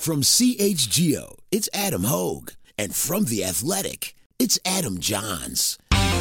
From CHGO, it's Adam Hogue. And from The Athletic, it's Adam Johns.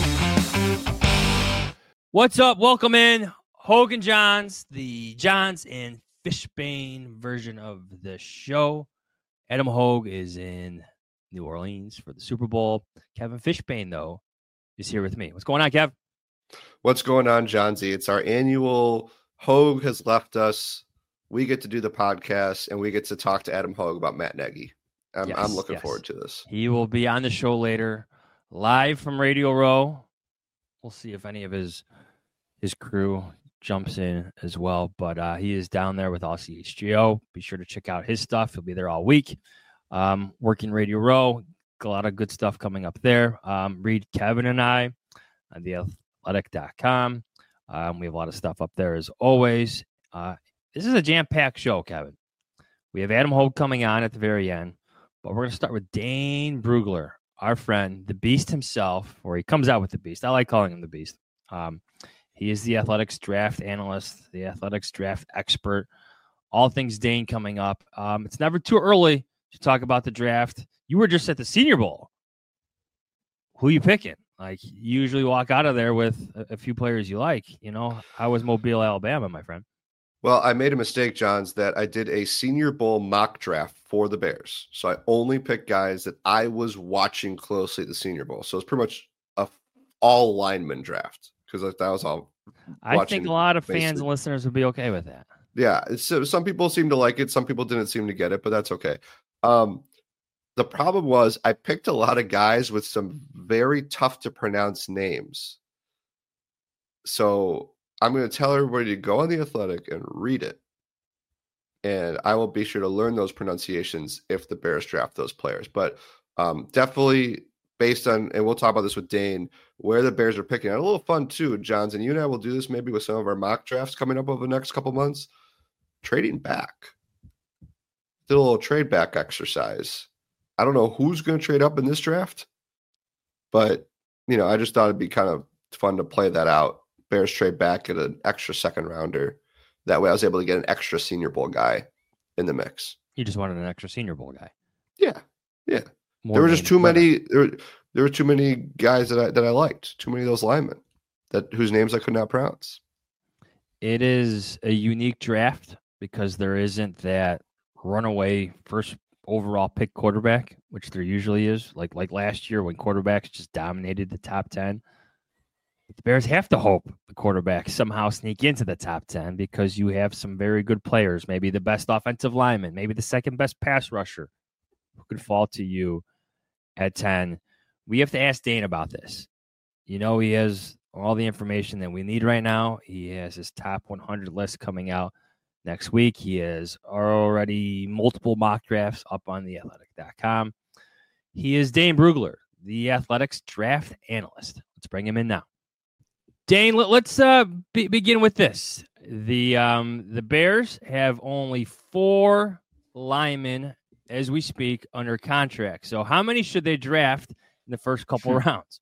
What's up? Welcome in. Hogue and Johns, the Johns and Fishbane version of the show. Adam Hogue is in New Orleans for the Super Bowl. Kevin Fishbane, though, is here with me. What's going on, Kev? What's going on, Johnsy? It's our annual Hogue has left us. We get to do the podcast, and we get to talk to Adam Hogue about Matt Nagy. I'm looking forward to this. He will be on the show later, live from Radio Row. We'll see if any of his crew jumps in as well. But he is down there with all CHGO. Be sure to check out his stuff. He'll be there all week. Working Radio Row. A lot of good stuff coming up there. Read Kevin and I on theathletic.com. We have a lot of stuff up there as always. This is a jam-packed show, Kevin. We have Adam Hogue coming on at the very end. But we're going to start with Dane Brugler, our friend, the Beast himself, or he comes out with the Beast. I like calling him the Beast. He is the Athletics draft analyst, the Athletics draft expert. All things Dane coming up. It's never too early to talk about the draft. You were just at the Senior Bowl. Who you picking? Like, you usually walk out of there with a few players you like. You know, how was Mobile, Alabama, my friend? Well, I made a mistake, Johns, that I did a Senior Bowl mock draft for the Bears. So I only picked guys that I was watching closely at the Senior Bowl. So it's pretty much a all lineman draft because that was all. I think a lot of fans and listeners would be okay with that. Yeah. So some people seem to like it. Some people didn't seem to get it, but that's okay. The problem was I picked a lot of guys with some very tough to pronounce names. So I'm going to tell everybody to go on The Athletic and read it. And I will be sure to learn those pronunciations if the Bears draft those players. But definitely based on, and we'll talk about this with Dane, where the Bears are picking. And a little fun too, Johns, and you and I will do this maybe with some of our mock drafts coming up over the next couple months. Trading back. Did a little trade back exercise. I don't know who's going to trade up in this draft, but, you know, I just thought it'd be kind of fun to play that out. Bears trade back at an extra second rounder. That way I was able to get an extra Senior Bowl guy in the mix. You just wanted an extra Senior Bowl guy. Yeah. Yeah. There were just too many. There were too many guys that I liked. Too many of those linemen whose names I could not pronounce. It is a unique draft because there isn't that runaway first overall pick quarterback, which there usually is. Like last year when quarterbacks just dominated the top 10. The Bears have to hope the quarterbacks somehow sneak into the top 10 because you have some very good players, maybe the best offensive lineman, maybe the second best pass rusher who could fall to you at 10. We have to ask Dane about this. You know, he has all the information that we need right now. He has his top 100 list coming out next week. He has already multiple mock drafts up on theathletic.com. He is Dane Brugler, the Athletics draft analyst. Let's bring him in now. Dane, let's begin with this. The Bears have only 4 linemen as we speak under contract. So how many should they draft in the first couple rounds?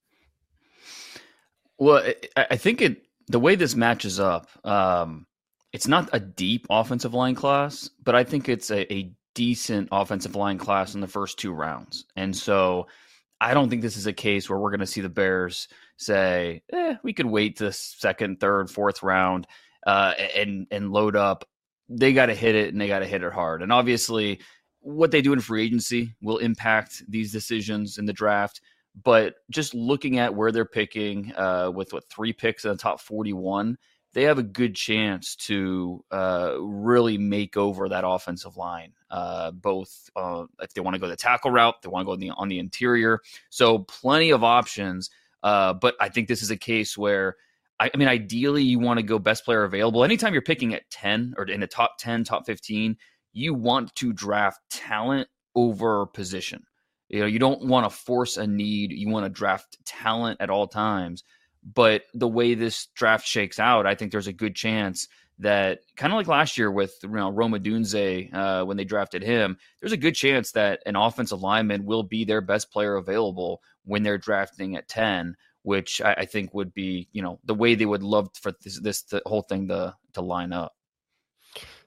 Well, I think the way this matches up, it's not a deep offensive line class, but I think it's a decent offensive line class in the first 2 rounds. And so I don't think this is a case where we're going to see the Bears say, we could wait to the second, third, fourth round and load up. They got to hit it, and they got to hit it hard. And obviously, what they do in free agency will impact these decisions in the draft. But just looking at where they're picking with 3 picks in the top 41, they have a good chance to really make over that offensive line, both if they want to go the tackle route, they want to go on the interior. So plenty of options. But I think this is a case where, I mean, ideally you want to go best player available. Anytime you're picking at 10 or in the top 10, top 15, you want to draft talent over position. You know, you don't want to force a need. You want to draft talent at all times. But the way this draft shakes out, I think there's a good chance that, kind of like last year with Rome Odunze when they drafted him, there's a good chance that an offensive lineman will be their best player available when they're drafting at 10, which I think would be, the way they would love for the whole thing to line up.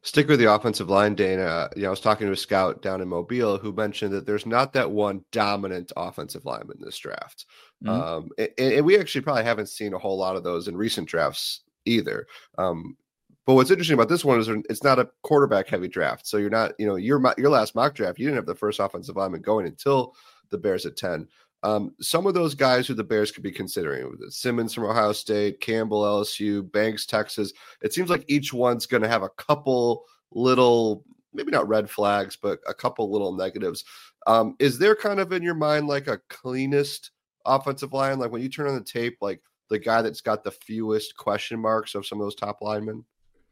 Stick with the offensive line, Dana. I was talking to a scout down in Mobile who mentioned that there's not that one dominant offensive lineman in this draft. And we actually probably haven't seen a whole lot of those in recent drafts either. But what's interesting about this one is it's not a quarterback heavy draft. So you're not, your last mock draft, you didn't have the first offensive lineman going until the Bears at 10. Some of those guys who the Bears could be considering, Simmons from Ohio State, Campbell, LSU, Banks, Texas, it seems like each one's going to have a couple little, maybe not red flags, but a couple little negatives. Is there kind of in your mind like a cleanest offensive line? Like when you turn on the tape, like the guy that's got the fewest question marks of some of those top linemen?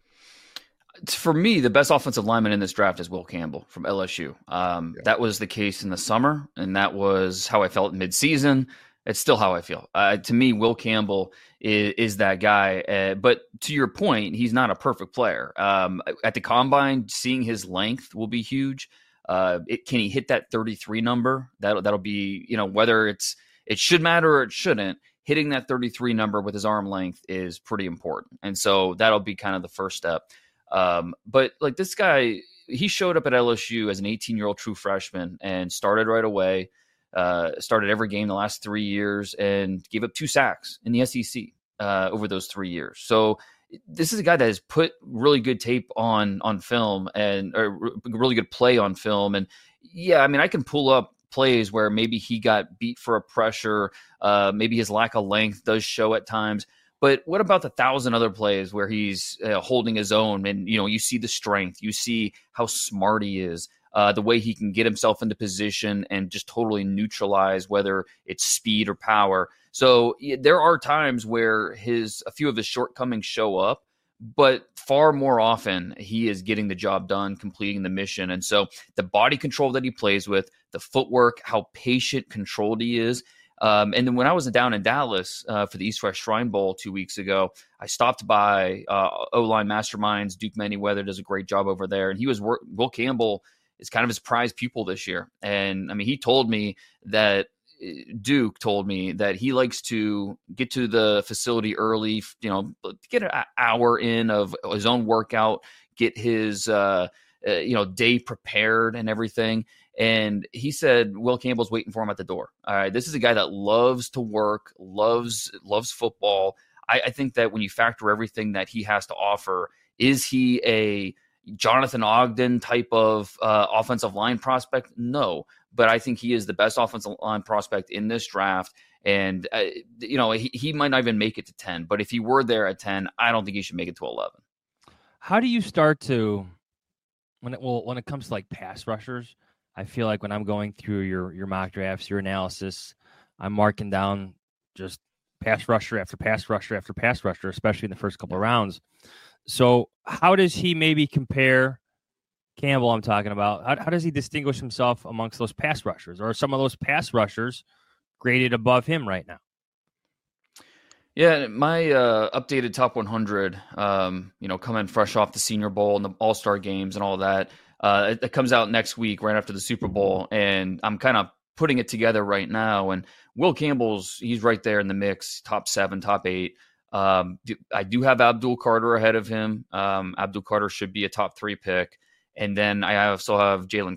For me, the best offensive lineman in this draft is Will Campbell from LSU. That was the case in the summer, and that was how I felt midseason. It's still how I feel. To me, Will Campbell is that guy. But to your point, he's not a perfect player. At the combine, seeing his length will be huge. Can he hit that 33 number? That'll be, whether it should matter or it shouldn't. Hitting that 33 number with his arm length is pretty important, and so that'll be kind of the first step. But like this guy, he showed up at LSU as an 18-year-old true freshman and started right away, started every game the last 3 years and gave up 2 sacks in the SEC over those 3 years. So this is a guy that has put really good tape on film or really good play on film. And yeah, I mean, I can pull up plays where maybe he got beat for a pressure. Maybe his lack of length does show at times. But what about the 1,000 other plays where he's holding his own and, you see the strength, you see how smart he is, the way he can get himself into position and just totally neutralize whether it's speed or power. So there are times where a few of his shortcomings show up, but far more often he is getting the job done, completing the mission. And so the body control that he plays with, the footwork, how patient, controlled he is. And then when I was down in Dallas for the East West Shrine Bowl 2 weeks ago, I stopped by O-Line Masterminds. Duke Manyweather does a great job over there. And Will Campbell is kind of his prized pupil this year. And I mean, Duke told me that he likes to get to the facility early, get an hour in of his own workout, get his, day prepared and everything. And he said Will Campbell's waiting for him at the door. All right, this is a guy that loves to work, loves football. I think that when you factor everything that he has to offer, is he a Jonathan Ogden type of offensive line prospect? No, but I think he is the best offensive line prospect in this draft. And, he might not even make it to 10, but if he were there at 10, I don't think he should make it to 11. How do you start to, when it comes to like pass rushers, I feel like when I'm going through your mock drafts, your analysis, I'm marking down just pass rusher after pass rusher after pass rusher, especially in the first couple of rounds. So how does he maybe compare Campbell I'm talking about? How does he distinguish himself amongst those pass rushers? Or are some of those pass rushers graded above him right now? Yeah, my updated top 100, coming fresh off the Senior Bowl and the All-Star games and all that, it comes out next week right after the Super Bowl, and I'm kind of putting it together right now. And Will Campbell's, he's right there in the mix, top 7, top 8. I do have Abdul Carter ahead of him. Abdul Carter should be a top 3 pick. And then I also have Jalen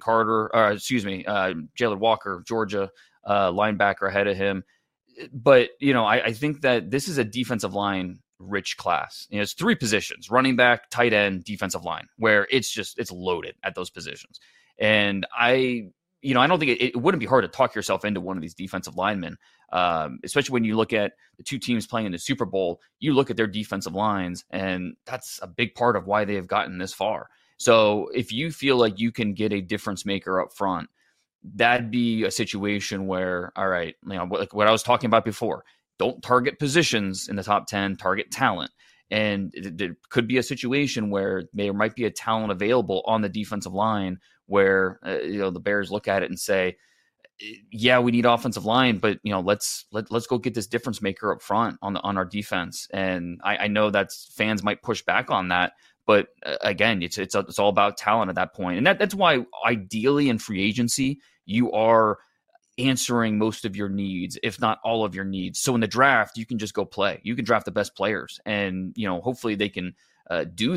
Walker, Georgia linebacker ahead of him. But, I think that this is a defensive line rich class. It's 3 positions: running back, tight end, defensive line, where it's loaded at those positions. And I don't think it wouldn't be hard to talk yourself into one of these defensive linemen, especially when you look at the 2 teams playing in the Super Bowl. You look at their defensive lines, and that's a big part of why they have gotten this far. So if you feel like you can get a difference maker up front, that'd be a situation where, all right, like what I was talking about before, don't target positions in the top 10, target talent. And there could be a situation where there might be a talent available on the defensive line where, the Bears look at it and say, yeah, we need offensive line, but let's go get this difference maker up front on our defense. And I know that fans might push back on that, but again, it's all about talent at that point. And that's why ideally in free agency, you are answering most of your needs, if not all of your needs. So in the draft, you can just go play. You can draft the best players, and hopefully they can do that.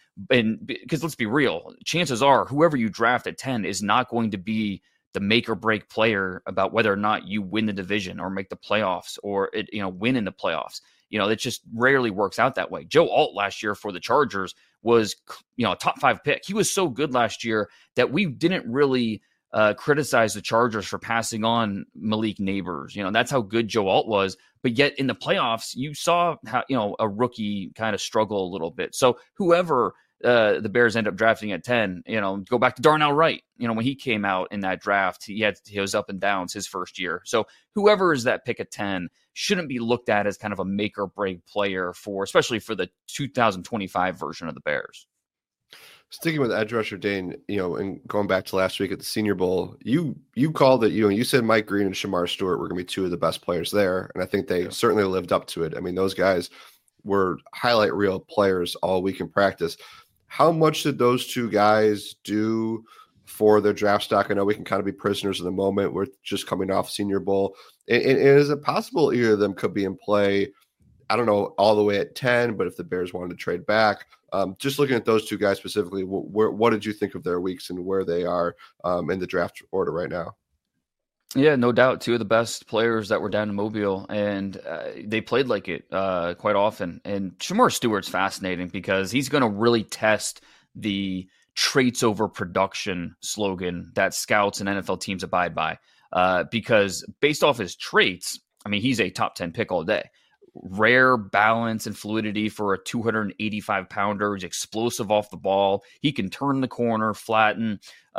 And because let's be real, chances are whoever you draft at 10 is not going to be the make or break player about whether or not you win the division or make the playoffs or win in the playoffs. It just rarely works out that way. Joe Alt last year for the Chargers was, a top 5 pick. He was so good last year that we didn't really criticize the Chargers for passing on Malik Neighbors. That's how good Joe Alt was. But yet in the playoffs, you saw how, a rookie kind of struggle a little bit. So whoever the Bears end up drafting at 10, go back to Darnell Wright. When he came out in that draft, he was up and downs his first year. So whoever is that pick at 10 shouldn't be looked at as kind of a make or break player especially for the 2025 version of the Bears. Sticking with edge rusher, Dane, and going back to last week at the Senior Bowl, you called it, you said Mike Green and Shamar Stewart were going to be two of the best players there. And I think they certainly lived up to it. I mean, those guys were highlight reel players all week in practice. How much did those two guys do for their draft stock? I know we can kind of be prisoners of the moment. We're just coming off Senior Bowl. And is it possible either of them could be in play, I don't know, all the way at 10, but if the Bears wanted to trade back? Just looking at those two guys specifically, what did you think of their weeks and where they are in the draft order right now? Yeah, no doubt. Two of the best players that were down in Mobile, and they played like it quite often. And Shamar Stewart's fascinating because he's going to really test the traits over production slogan that scouts and NFL teams abide by. Because based off his traits, I mean, he's a top 10 pick all day. Rare balance and fluidity for a 285-pounder. He's explosive off the ball. He can turn the corner, flatten.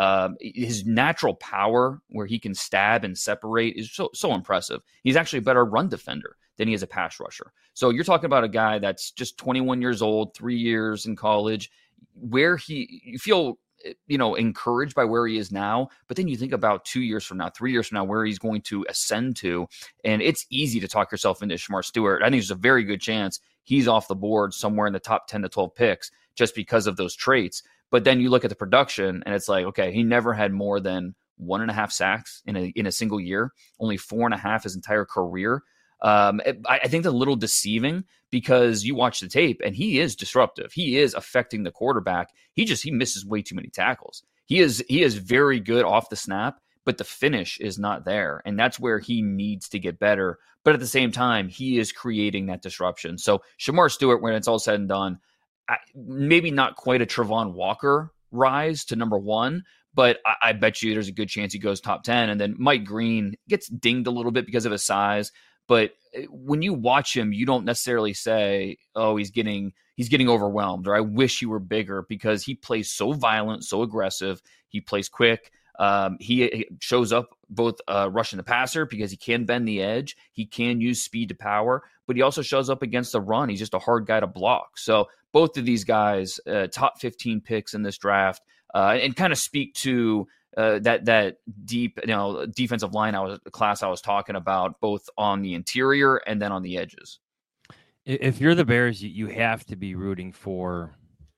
His natural power, where he can stab and separate, is so impressive. He's actually a better run defender than he is a pass rusher. So you're talking about a guy that's just 21 years old, 3 years in college, where you feel encouraged by where he is now, but then you think about 2 years from now, 3 years from now, where he's going to ascend to, and it's easy to talk yourself into Shamar Stewart. I think there's a very good chance he's off the board somewhere in the top 10 to 12 picks just because of those traits. But then you look at the production, and it's like, okay, he never had more than 1.5 sacks in a single year, only 4.5 his entire career. I think that's a little deceiving because you watch the tape and he is disruptive. He is affecting the quarterback. He misses way too many tackles. He is very good off the snap, but the finish is not there. And that's where he needs to get better. But at the same time, he is creating that disruption. So Shamar Stewart, when it's all said and done, maybe not quite a Travon Walker rise to number 1, but I bet you there's a good chance he goes top 10. And then Mike Green gets dinged a little bit because of his size. But when you watch him, you don't necessarily say, oh, he's getting overwhelmed, or I wish he were bigger, because he plays so violent, so aggressive. He plays quick. He shows up both rushing the passer because he can bend the edge. He can use speed to power, but he also shows up against the run. He's just a hard guy to block. So both of these guys, top 15 picks in this draft, and kind of speak to that deep, defensive line class I was talking about, both on the interior and then on the edges. If you're the Bears, you have to be rooting for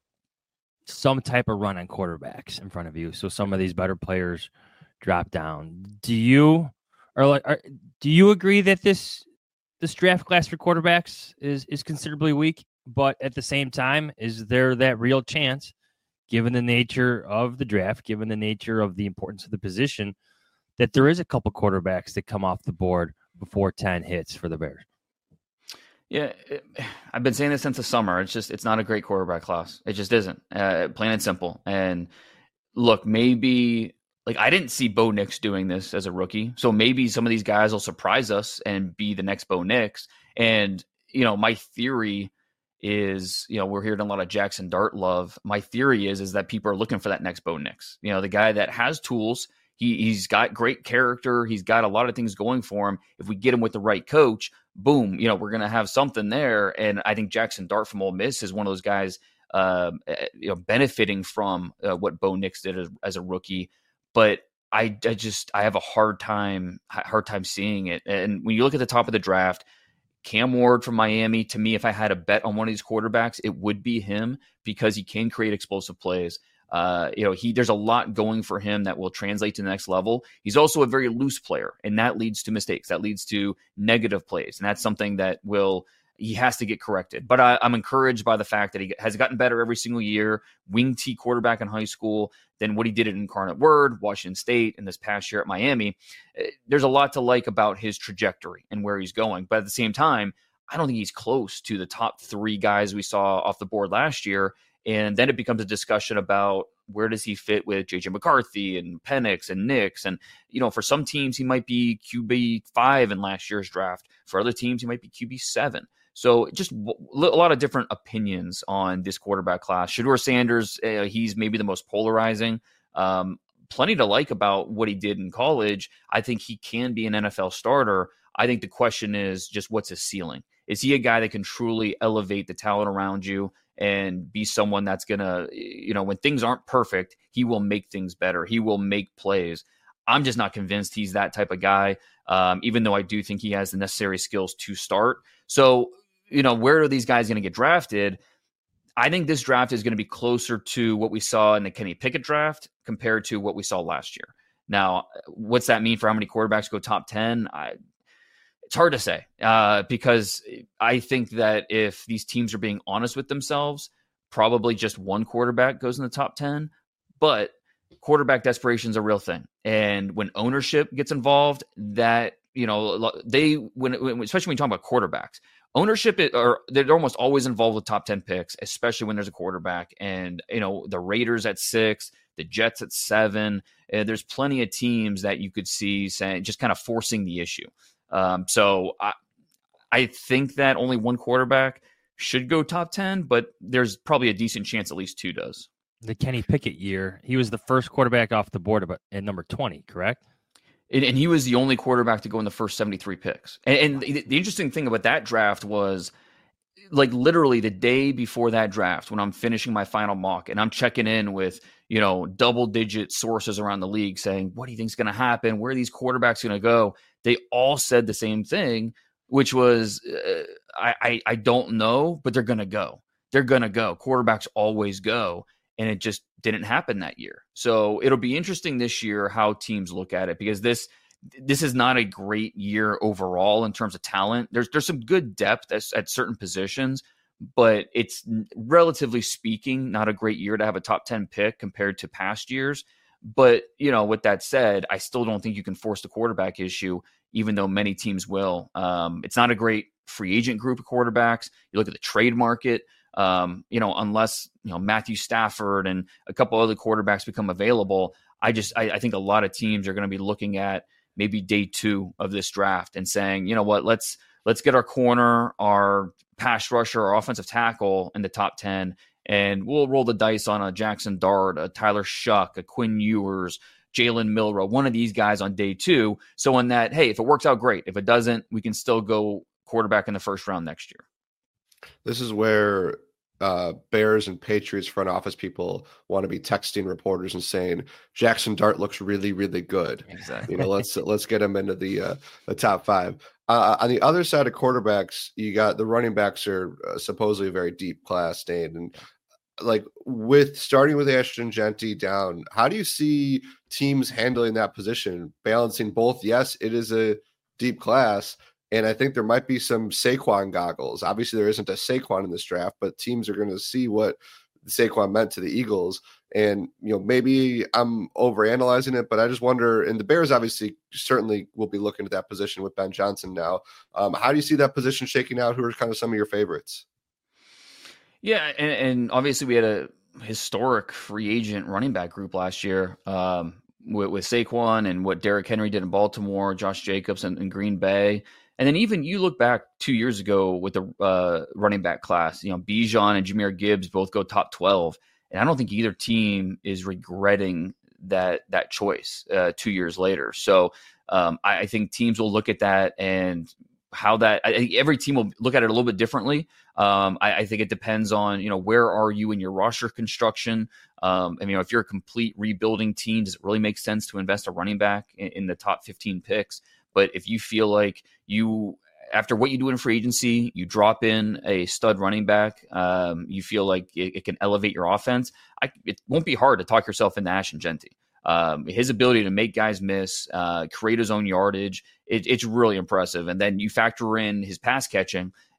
some type of run on quarterbacks in front of you, so some of these better players drop down. Do you agree that this draft class for quarterbacks is considerably weak? But at the same time, is there that real chance, given the nature of the draft, given the nature of the importance of the position, that there is a couple quarterbacks that come off the board before 10 hits for the Bears? Yeah, I've been saying this since the summer. It's not a great quarterback class. It just isn't, plain and simple. And look, maybe I didn't see Bo Nix doing this as a rookie. So maybe some of these guys will surprise us and be the next Bo Nix. And, my theory is, we're hearing a lot of Jackson Dart love. My theory is that people are looking for that next Bo Nix, the guy that has tools. He's got great character. He's got a lot of things going for him. If we get him with the right coach, boom, we're going to have something there. And I think Jackson Dart from Ole Miss is one of those guys, benefiting from what Bo Nix did as a rookie. But I have a hard time seeing it. And when you look at the top of the draft, Cam Ward from Miami, to me, if I had a bet on one of these quarterbacks, it would be him, because he can create explosive plays. There's a lot going for him that will translate to the next level. He's also a very loose player, and that leads to mistakes. That leads to negative plays. And that's something that will, he has to get corrected. But I'm encouraged by the fact that he has gotten better every single year, wing T quarterback in high school, than what he did at Incarnate Word, Washington State, and this past year at Miami. There's a lot to like about his trajectory and where he's going. But at the same time, I don't think he's close to the top 3 guys we saw off the board last year. And then it becomes a discussion about where does he fit with J.J. McCarthy and Penix and Nix. And, for some teams, he might be QB 5 in last year's draft. For other teams, he might be QB 7. So just a lot of different opinions on this quarterback class. Shedeur Sanders, he's maybe the most polarizing. Plenty to like about what he did in college. I think he can be an NFL starter. I think the question is just what's his ceiling? Is he a guy that can truly elevate the talent around you and be someone that's going to, when things aren't perfect, he will make things better. He will make plays. I'm just not convinced he's that type of guy, even though I do think he has the necessary skills to start. So, where are these guys going to get drafted? I think this draft is going to be closer to what we saw in the Kenny Pickett draft compared to what we saw last year. Now, what's that mean for how many quarterbacks go top 10? It's hard to say because I think that if these teams are being honest with themselves, probably just one quarterback goes in the top 10. But quarterback desperation is a real thing. And when ownership gets involved, that, especially when you talk about quarterbacks, ownership, they're almost always involved with top 10 picks, especially when there's a quarterback. And, the Raiders at 6, the Jets at 7. There's plenty of teams that you could see saying, just kind of forcing the issue. So I think that only one quarterback should go top 10, but there's probably a decent chance at least 2 does. The Kenny Pickett year, he was the first quarterback off the board at number 20, correct? And he was the only quarterback to go in the first 73 picks. And the interesting thing about that draft was, like, literally the day before that draft, when I'm finishing my final mock and I'm checking in with, double-digit sources around the league saying, what do you think is going to happen? Where are these quarterbacks going to go? They all said the same thing, which was, I don't know, but they're going to go. They're going to go. Quarterbacks always go. And it just didn't happen that year. So it'll be interesting this year how teams look at it, because this is not a great year overall in terms of talent. There's some good depth at certain positions, but it's, relatively speaking, not a great year to have a top 10 pick compared to past years. But, with that said, I still don't think you can force the quarterback issue, even though many teams will. It's not a great free agent group of quarterbacks. You look at the trade market, unless, Matthew Stafford and a couple other quarterbacks become available, I think a lot of teams are going to be looking at maybe day 2 of this draft and saying, you know what, let's get our corner, our pass rusher, our offensive tackle in the top 10, and we'll roll the dice on a Jackson Dart, a Tyler Shuck, a Quinn Ewers, Jalen Milroe, one of these guys on day 2. So in that, hey, if it works out, great. If it doesn't, we can still go quarterback in the first round next year. This is where Bears and Patriots front office people want to be texting reporters and saying Jackson Dart looks really, really good. Exactly. Let's get him into the top 5. On the other side of quarterbacks, you got the running backs are supposedly a very deep class, Dane. And like with starting with Ashton Jeanty down, how do you see teams handling that position, balancing both? Yes, it is a deep class. And I think there might be some Saquon goggles. Obviously, there isn't a Saquon in this draft, but teams are going to see what Saquon meant to the Eagles. And, maybe I'm overanalyzing it, but I just wonder, and the Bears obviously certainly will be looking at that position with Ben Johnson now. How do you see that position shaking out? Who are kind of some of your favorites? Yeah, and obviously we had a historic free agent running back group last year with Saquon and what Derrick Henry did in Baltimore, Josh Jacobs in Green Bay. And then even you look back 2 years ago with the running back class, Bijan and Jahmyr Gibbs both go top 12. And I don't think either team is regretting that choice 2 years later. So I think teams will look at that and how that – I think every team will look at it a little bit differently. I think it depends on, where are you in your roster construction? If you're a complete rebuilding team, does it really make sense to invest a running back in the top 15 picks? But if you feel like after what you do in free agency, you drop in a stud running back, you feel like it can elevate your offense, it won't be hard to talk yourself into Ashton Jeanty. His ability to make guys miss, create his own yardage, it's really impressive. And then you factor in his pass catching,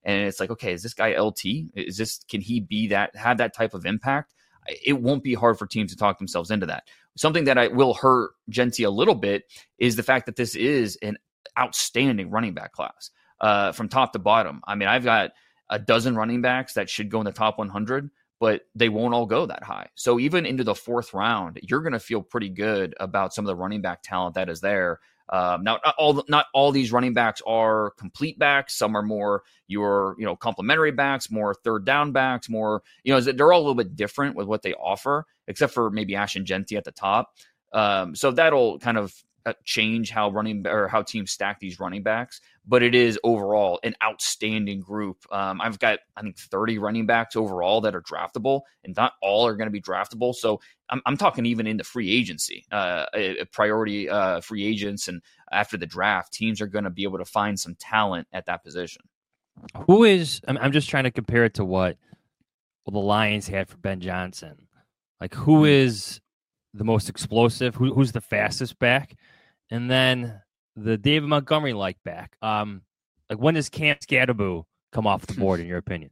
And it's like, okay, is this guy LT? Can he have that type of impact? It won't be hard for teams to talk themselves into that. Something that will hurt Genty a little bit is the fact that this is an outstanding running back class from top to bottom. I mean, I've got a dozen running backs that should go in the top 100, but they won't all go that high. So even into the 4th round, you're going to feel pretty good about some of the running back talent that is there. Now, not all these running backs are complete backs. Some are more your, complementary backs, more third down backs, more, they're all a little bit different with what they offer, except for maybe Ashton Genty at the top. So that'll kind of change how teams stack these running backs, but it is overall an outstanding group. I've got, I think, 30 running backs overall that are draftable, and not all are going to be draftable. So I'm talking even in the free agency, priority free agents, and after the draft, teams are going to be able to find some talent at that position. I'm just trying to compare it to what the Lions had for Ben Johnson. Like, who is the most explosive? Who's the fastest back? And then the David Montgomery back. Like, when does Cam Skattebo come off the board, in your opinion?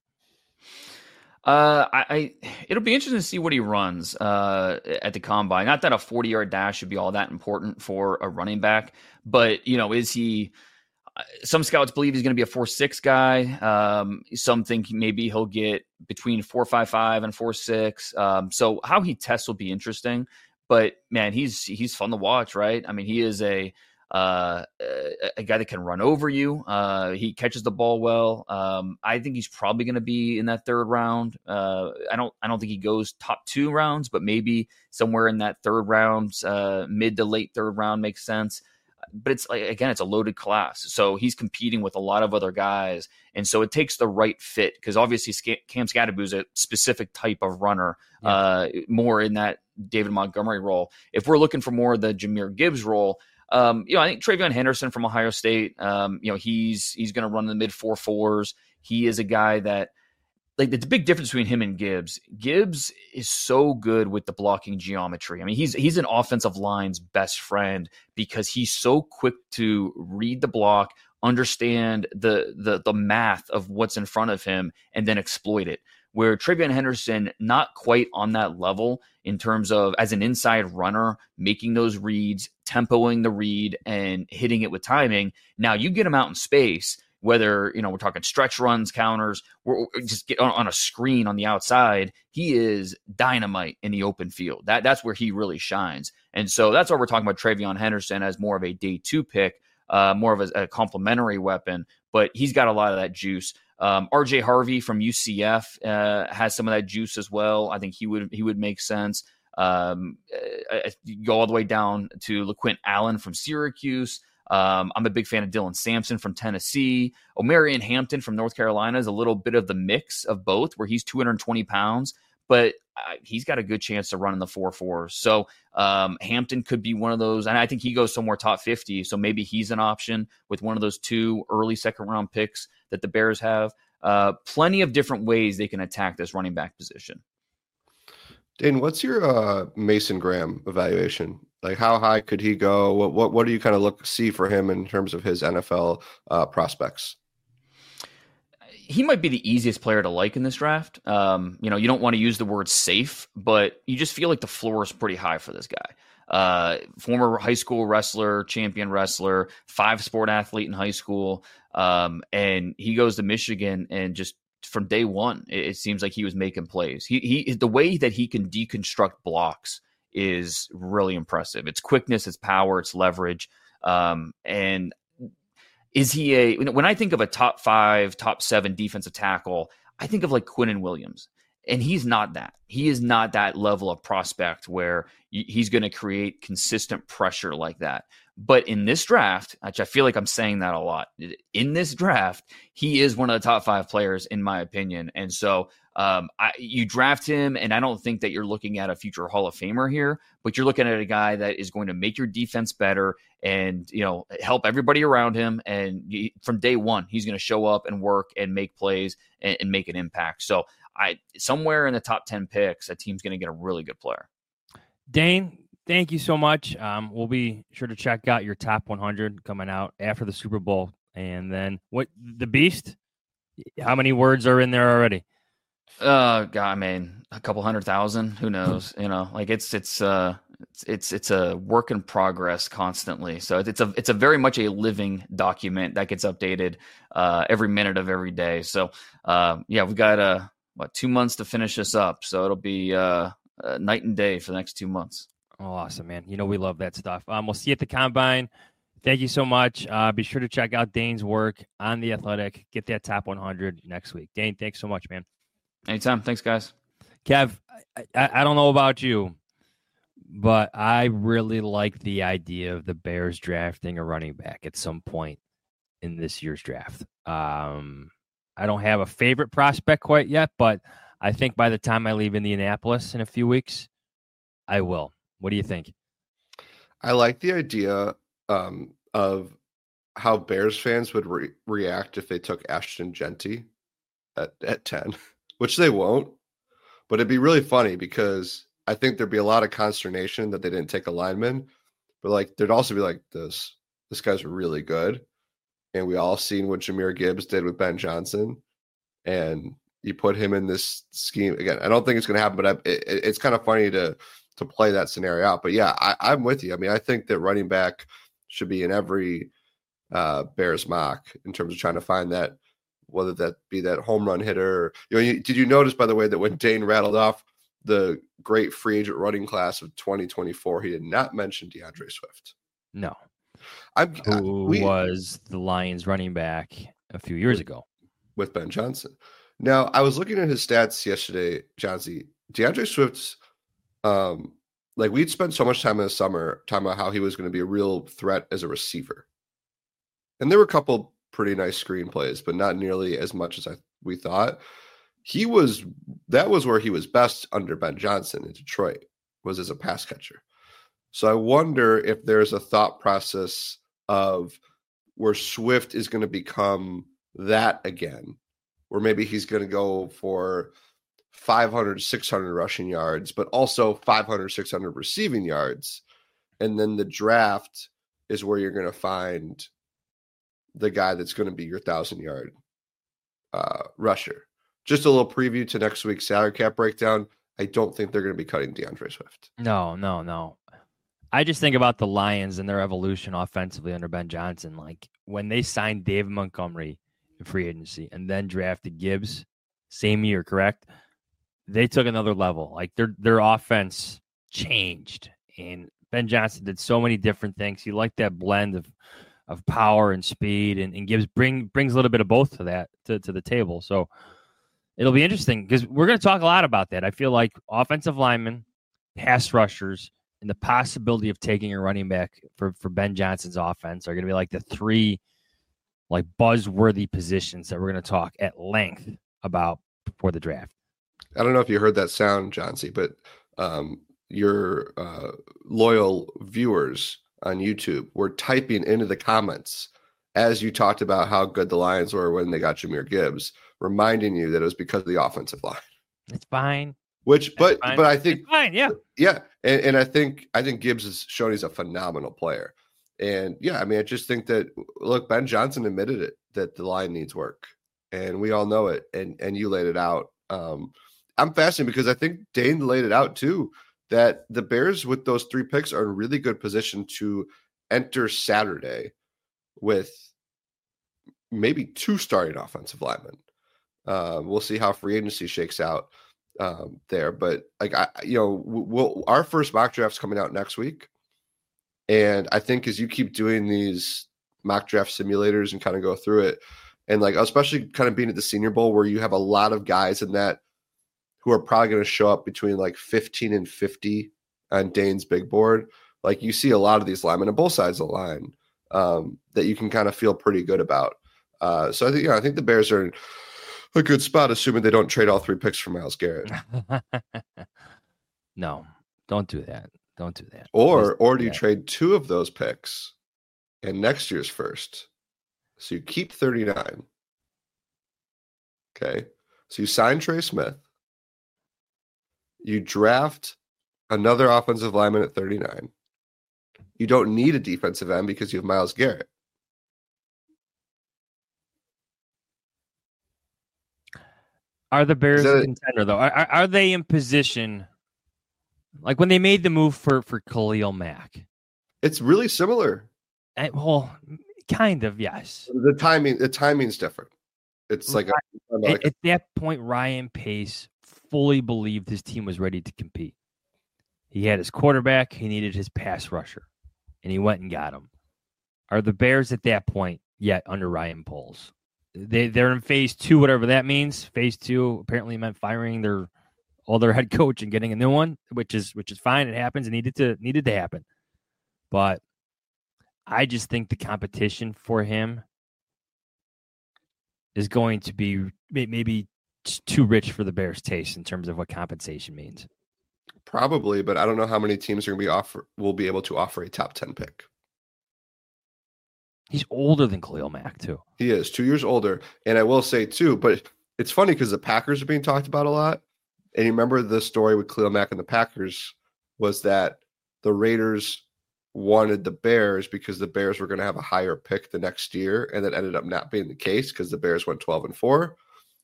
It'll be interesting to see what he runs at the combine. Not that a 40-yard dash should be all that important for a running back, but is he? Some scouts believe he's going to be a 4.6 guy. Some think maybe he'll get between 4.55 and 4.6. So how he tests will be interesting. But man, he's fun to watch, right? I mean, he is a guy that can run over you. He catches the ball well. I think he's probably going to be in that 3rd round. I don't think he goes top 2 rounds, but maybe somewhere in that 3rd round, mid to late 3rd round makes sense. But it's it's a loaded class. So he's competing with a lot of other guys. And so it takes the right fit, because obviously Cam Skattebo is a specific type of runner, more in that David Montgomery role. If we're looking for more of the Jahmyr Gibbs role, I think TreVeyon Henderson from Ohio State, he's going to run in the mid 4.4s. He is a guy that, the big difference between him and Gibbs. Gibbs is so good with the blocking geometry. I mean, he's an offensive line's best friend, because he's so quick to read the block, understand the math of what's in front of him, and then exploit it. Where TreVeyon Henderson, not quite on that level in terms of, as an inside runner, making those reads, tempoing the read, and hitting it with timing. Now you get him out in space, whether, we're talking stretch runs, counters, or just get on a screen on the outside, he is dynamite in the open field. That's where he really shines. And so that's why we're talking about TreVeyon Henderson as more of a day 2 pick, more of a complementary weapon, but he's got a lot of that juice. RJ Harvey from UCF has some of that juice as well. I think he would make sense. You go all the way down to LaQuint Allen from Syracuse. I'm a big fan of Dylan Sampson from Tennessee. Omarion Hampton from North Carolina is a little bit of the mix of both, where he's 220 pounds, but he's got a good chance to run in the 4.4s. So Hampton could be one of those, and I think he goes somewhere top 50. So maybe he's an option with one of those 2 early 2nd round picks that the Bears have. Plenty of different ways they can attack this running back position. Dane, what's your Mason Graham evaluation? Like, how high could he go? What do you kind of see for him in terms of his NFL prospects? He might be the easiest player to like in this draft. You don't want to use the word safe, but you just feel like the floor is pretty high for this guy. Former high school wrestler, champion wrestler, 5-sport athlete in high school. And he goes to Michigan, and just from day one, it seems like he was making plays. He the way that he can deconstruct blocks is really impressive. It's quickness, it's power, it's leverage. And is he when I think of a top 5, top 7 defensive tackle, I think of like Quinnen Williams. And he's not that. He is not that level of prospect where he's going to create consistent pressure like that. But in this draft, which I feel like I'm saying that a lot, in this draft, he is one of the top 5 players, in my opinion. And so you draft him, and I don't think that you're looking at a future Hall of Famer here, but you're looking at a guy that is going to make your defense better and, help everybody around him. And from day one, he's going to show up and work and make plays and make an impact. So somewhere in the top 10 picks, a team's going to get a really good player. Dane, thank you so much. We'll be sure to check out your top 100 coming out after the Super Bowl. And then what the Beast, How many words are in there already? God, I mean, a couple 100,000. Who knows? Like it's a work in progress constantly. So it's a very much a living document that gets updated every minute of every day. So yeah, we've got 2 months to finish this up. So it'll be night and day for the next 2 months. Oh, awesome, man. We love that stuff. We'll see you at the Combine. Thank you so much. Be sure to check out Dane's work on The Athletic. Get that top 100 next week. Dane, thanks so much, man. Anytime. Thanks, guys. Kev, I don't know about you, but I really like the idea of the Bears drafting a running back at some point in this year's draft. I don't have a favorite prospect quite yet, but I think by the time I leave Indianapolis in a few weeks, I will. What do you think? I like the idea of how Bears fans would react if they took Ashton Genty at 10, which they won't. But it'd be really funny because I think there'd be a lot of consternation that they didn't take a lineman. But like there'd also be like this guy's really good. And we all seen what Jahmyr Gibbs did with Ben Johnson. And you put him in this scheme. Again, I don't think it's going to happen, but it's kind of funny to play that scenario out. But yeah, I'm with you. I mean, I think that running back should be in every Bears mock in terms of trying to find that, whether that be that home run hitter. Did you notice, by the way, that when Dane rattled off the great free agent running class of 2024, he did not mention DeAndre Swift? No. Who was the Lions running back a few years ago? With Ben Johnson. Now, I was looking at his stats yesterday, Johnsy. DeAndre Swift's, we'd spent so much time in the summer talking about how he was going to be a real threat as a receiver. And there were a couple pretty nice screenplays, but not nearly as much as we thought. That was where he was best under Ben Johnson in Detroit, was as a pass catcher. So I wonder if there's a thought process of where Swift is going to become that again, where maybe he's going to go for 500, 600 rushing yards, but also 500, 600 receiving yards. And then the draft is where you're going to find the guy that's going to be your 1,000-yard rusher. Just a little preview to next week's salary cap breakdown. I don't think they're going to be cutting DeAndre Swift. No. I just think about the Lions and their evolution offensively under Ben Johnson. Like when they signed David Montgomery in free agency and then drafted Gibbs, same year, correct? They took another level. Like their offense changed, and Ben Johnson did so many different things. He liked that blend of power and speed, and Gibbs brings a little bit of both to that to the table. So it'll be interesting because we're going to talk a lot about that. I feel like offensive linemen, pass rushers, and the possibility of taking a running back for Ben Johnson's offense are going to be like the three like buzzworthy positions that we're going to talk at length about before the draft. I don't know if you heard that sound, Johnsy, but your loyal viewers on YouTube were typing into the comments as you talked about how good the Lions were when they got Jahmyr Gibbs, reminding you that it was because of the offensive line. It's fine. But I think it's fine, yeah, and I think Gibbs has shown he's a phenomenal player, and yeah, I mean, I just think that look, Ben Johnson admitted it that the line needs work, and we all know it, and you laid it out. I'm fascinated because I think Dane laid it out too, that the Bears with those 3 picks are in really good position to enter Saturday with maybe 2 starting offensive linemen. We'll see how free agency shakes out there, but like our first mock draft's coming out next week, and I think as you keep doing these mock draft simulators and kind of go through it, and like especially kind of being at the Senior Bowl where you have a lot of guys in that who are probably going to show up between like 15 and 50 on Dane's big board. Like you see a lot of these linemen on both sides of the line that you can kind of feel pretty good about. So I think the Bears are in a good spot, assuming they don't trade all 3 picks for Myles Garrett. No, don't do that. Don't do that. Or do you trade 2 of those picks and next year's first? So you keep 39. Okay. So you sign Trey Smith. You draft another offensive lineman at 39. You don't need a defensive end because you have Myles Garrett. Are the Bears that a contender, though? Are they in position, like when they made the move for Khalil Mack? It's really similar. Well, kind of, yes. The timing's different. It's like at that point, Ryan Pace fully believed his team was ready to compete. He had his quarterback. He needed his pass rusher, and he went and got him. Are the Bears at that point yet under Ryan Poles? They're in phase 2, whatever that means. Phase 2 apparently meant firing their head coach and getting a new one, which is fine. It happens. It needed to happen. But I just think the competition for him is going to be maybe too rich for the Bears' taste in terms of what compensation means. Probably, but I don't know how many teams are going to will be able to offer a top 10 pick. He's older than Khalil Mack, too. He is 2 years older. And I will say, too, but it's funny because the Packers are being talked about a lot. And you remember the story with Khalil Mack and the Packers was that the Raiders wanted the Bears because the Bears were going to have a higher pick the next year. And that ended up not being the case because the Bears went 12-4.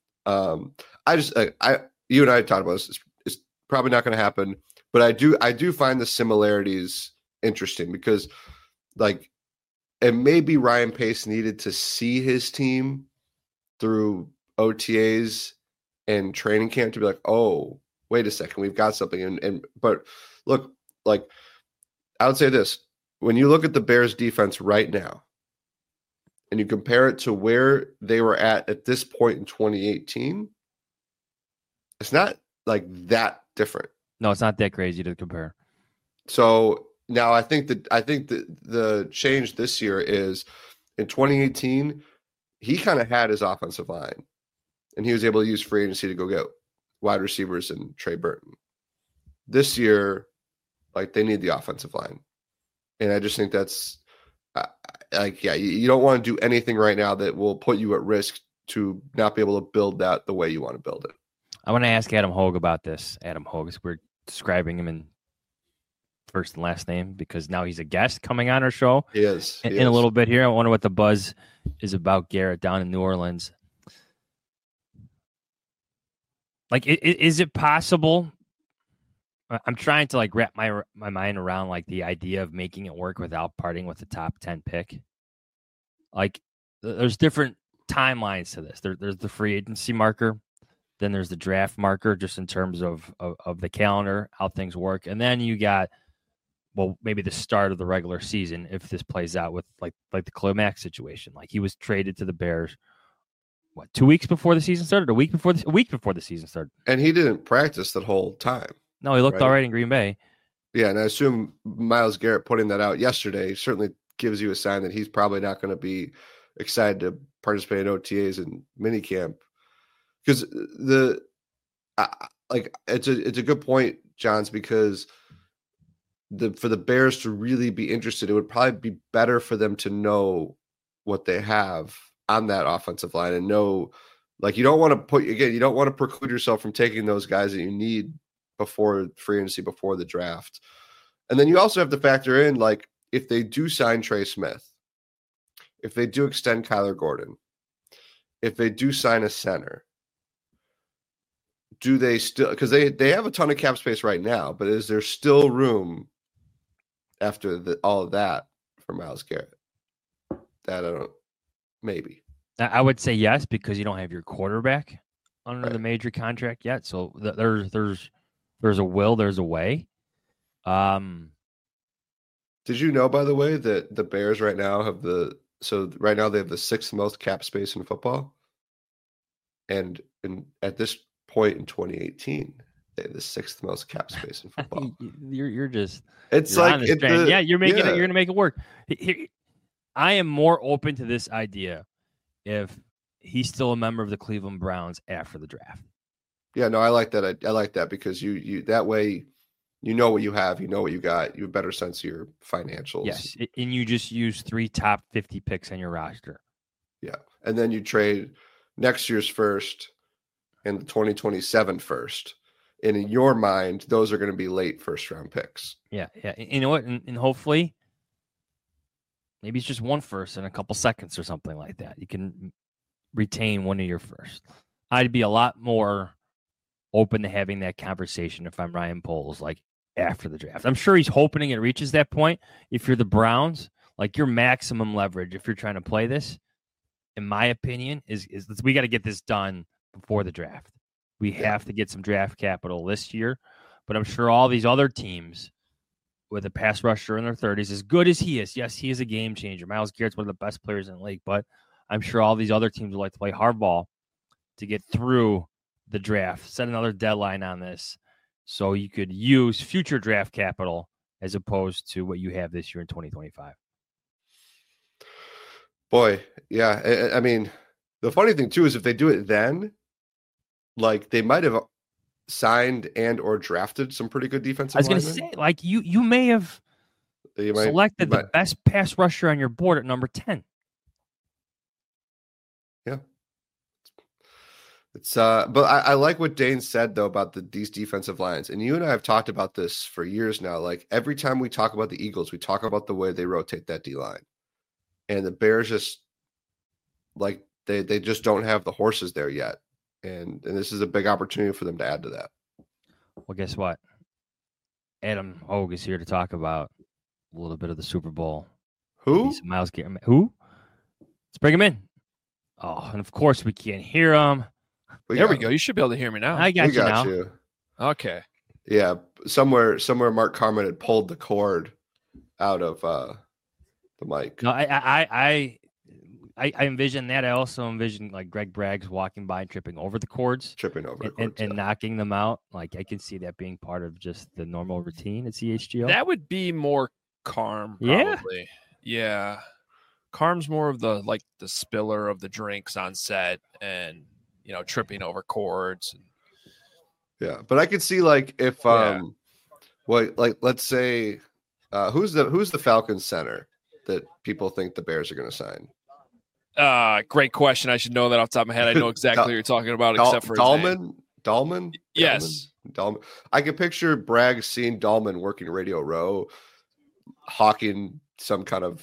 You and I talked about this. It's probably not going to happen. But I do find the similarities interesting because, like, and maybe Ryan Pace needed to see his team through OTAs and training camp to be like, oh, wait a second, we've got something. But look, like, I would say this: when you look at the Bears defense right now and you compare it to where they were at this point in 2018, it's not like that different. No, it's not that crazy to compare. So now I think the change this year is in 2018, he kind of had his offensive line and he was able to use free agency to go get wide receivers and Trey Burton. This year, like, they need the offensive line. And I just think that's you don't want to do anything right now that will put you at risk to not be able to build that the way you want to build it. I want to ask Adam Hogue about this. Adam Hogue, we're describing him in first and last name because now he's a guest coming on our show. He is. In a little bit here. I wonder what the buzz is about Garrett down in New Orleans. Like, is it possible? I'm trying to, like, wrap my mind around, like, the idea of making it work without parting with the top 10 pick. Like, there's different timelines to this. There's the free agency marker. Then there's the draft marker, just in terms of the calendar, how things work. And then you got, well, maybe the start of the regular season if this plays out with like the Khalil Mack situation. Like, he was traded to the Bears, 2 weeks before the season started? A week before the season started. And he didn't practice that whole time. No, he looked all right in Green Bay. Yeah, and I assume Myles Garrett putting that out yesterday certainly gives you a sign that he's probably not going to be excited to participate in OTAs and minicamp. Because it's a good point, Johns, because for the Bears to really be interested, it would probably be better for them to know what they have on that offensive line and know, like, you don't want to preclude yourself from taking those guys that you need before free agency, before the draft. And then you also have to factor in, like, if they do sign Trey Smith, if they do extend Kyler Gordon, if they do sign a center, do they still, because they have a ton of cap space right now, but is there still room after all of that for Myles Garrett? That I don't, maybe. I would say yes, because you don't have your quarterback under Right. the major contract yet. So there's a will, there's a way. Did you know, by the way, that the Bears right now they have the sixth most cap space in football, and at this point in 2018, they have the sixth most cap space in football. You're just It's you're like on this train. You're making it. You're gonna make it work. I am more open to this idea if he's still a member of the Cleveland Browns after the draft. Yeah, no, I like that. I like that because you that way, you know what you have, you know what you got, you have a better sense of your financials. Yes, and you just use 3 top 50 picks on your roster. Yeah, and then you trade next year's first and the 2027 first. And in your mind, those are going to be late first round picks. Yeah. You know what? And hopefully, maybe it's just one first and a couple seconds or something like that. You can retain one of your first. I'd be a lot more open to having that conversation if I'm Ryan Poles, like after the draft. I'm sure he's hoping it reaches that point. If you're the Browns, like your maximum leverage, if you're trying to play this, in my opinion, is we got to get this done before the draft. We have to get some draft capital this year, but I'm sure all these other teams with a pass rusher in their 30s, as good as he is, yes, he is a game changer. Myles Garrett's one of the best players in the league, but I'm sure all these other teams would like to play hardball to get through the draft, set another deadline on this so you could use future draft capital as opposed to what you have this year in 2025. Boy, yeah. I mean, the funny thing too is if they do it then, like they might have signed and or drafted some pretty good defensive I was going to say, like you may have selected the best pass rusher on your board at number 10. Yeah. It's but I like what Dane said though about these defensive lines. And you and I have talked about this for years now. Like every time we talk about the Eagles, we talk about the way they rotate that D line. And the Bears just like they just don't have the horses there yet. And this is a big opportunity for them to add to that. Well, guess what? Adam Hogue is here to talk about a little bit of the Super Bowl. Who? Myles Garrett. Who? Let's bring him in. Oh, and of course we can't hear him. There we go. You should be able to hear me now. I got you. Okay. Yeah. Somewhere Mark Carman had pulled the cord out of the mic. No, I envision that. I also envision like Greg Braggs walking by and tripping over the cords. And knocking them out. Like I can see that being part of just the normal routine at CHGO. That would be more Carm, probably. Yeah. Carm's more of the spiller of the drinks on set and tripping over cords. Yeah, but I could see like if let's say who's the Falcons center that people think the Bears are going to sign? Great question. I should know that off the top of my head. I know exactly what you're talking about, except for Dahlman. Yes, Dahlman. I can picture Bragg seeing Dahlman working Radio Row, hawking some kind of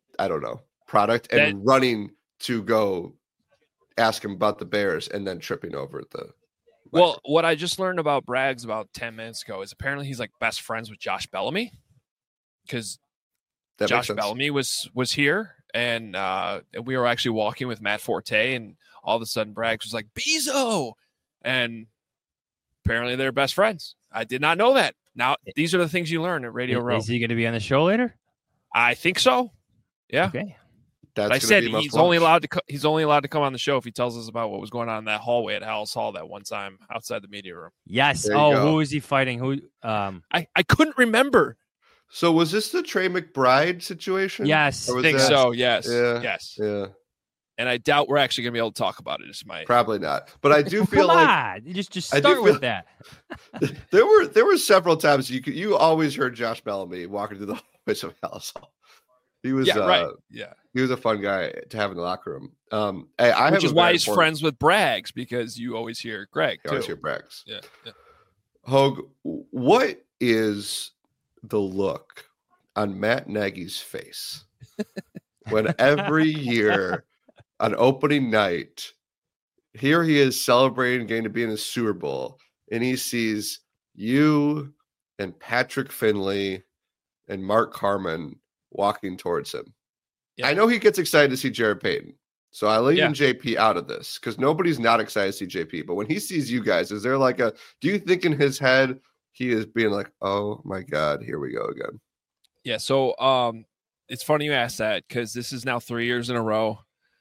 product and running to go ask him about the Bears and then tripping over the. Well, what I just learned about Braggs about 10 minutes ago is apparently he's like best friends with Josh Bellamy because Josh Bellamy was here and we were actually walking with Matt Forte and all of a sudden Braggs was like Bezo, and apparently they're best friends. I did not know that. Now these are the things you learn at Radio Row. Is he going to be on the show later? I think so. Yeah. Okay. I said he's only allowed to come on the show if he tells us about what was going on in that hallway at Hal's Hall that one time outside the media room. Yes. Who is he fighting? Who? I couldn't remember. So was this the Trey McBride situation? Yes. I think so. Yes. Yeah. Yes. Yeah. And I doubt we're actually going to be able to talk about it. It's probably not. But I do feel like just start with that. There were several times you always heard Josh Bellamy walking through the hallways of Hal's Hall. He was right. Yeah. He was a fun guy to have in the locker room. Which is why he's friends with Braggs, because you always hear Greg. You always hear Braggs. Yeah. Hogue, what is the look on Matt Nagy's face when every year on opening night, here he is celebrating getting to be in the Super Bowl, and he sees you and Patrick Finley and Mark Carman walking towards him. Yeah. I know he gets excited to see Jared Payton. So I leave JP out of this because nobody's not excited to see JP. But when he sees you guys, is there do you think in his head he is being like, oh my God, here we go again? Yeah. So it's funny you asked that because this is now 3 years in a row.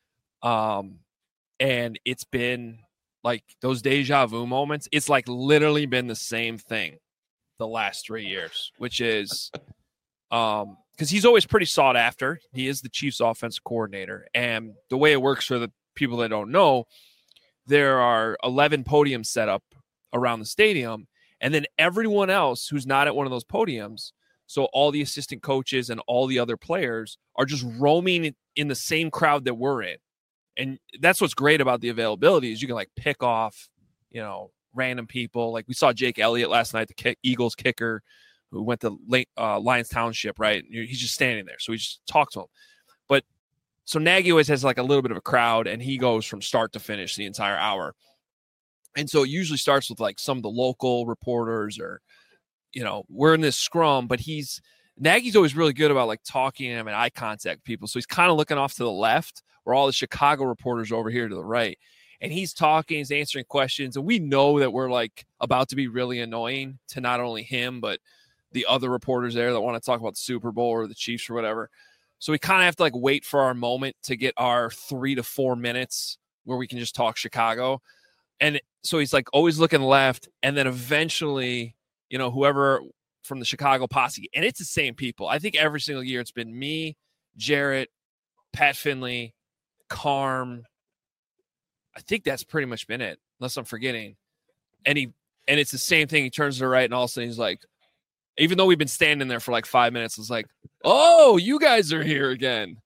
And it's been like those deja vu moments. It's like literally been the same thing the last 3 years, which is because he's always pretty sought after. He is the Chiefs offensive coordinator. And the way it works for the people that don't know, there are 11 podiums set up around the stadium. And then everyone else who's not at one of those podiums, so all the assistant coaches and all the other players are just roaming in the same crowd that we're in. And that's what's great about the availability is you can pick off, random people. Like we saw Jake Elliott last night, the Eagles kicker who went to Lions Township, right? He's just standing there. So we just talk to him. But so Nagy always has a little bit of a crowd and he goes from start to finish the entire hour. And so it usually starts with like some of the local reporters or, we're in this scrum, but Nagy's always really good about like talking to him and eye contact with people. So he's kind of looking off to the left where all the Chicago reporters are over here to the right. And he's talking, he's answering questions. And we know that we're like about to be really annoying to not only him, but the other reporters there that want to talk about the Super Bowl or the Chiefs or whatever. So we kind of have to like wait for our moment to get our 3 to 4 minutes where we can just talk Chicago. And so he's like always looking left. And then eventually, whoever from the Chicago posse, and it's the same people. I think every single year it's been me, Jarrett, Pat Finley, Carm. I think that's pretty much been it, unless I'm forgetting. And it's the same thing. He turns to the right, and all of a sudden he's like, even though we've been standing there for like 5 minutes, it's like, oh, you guys are here again.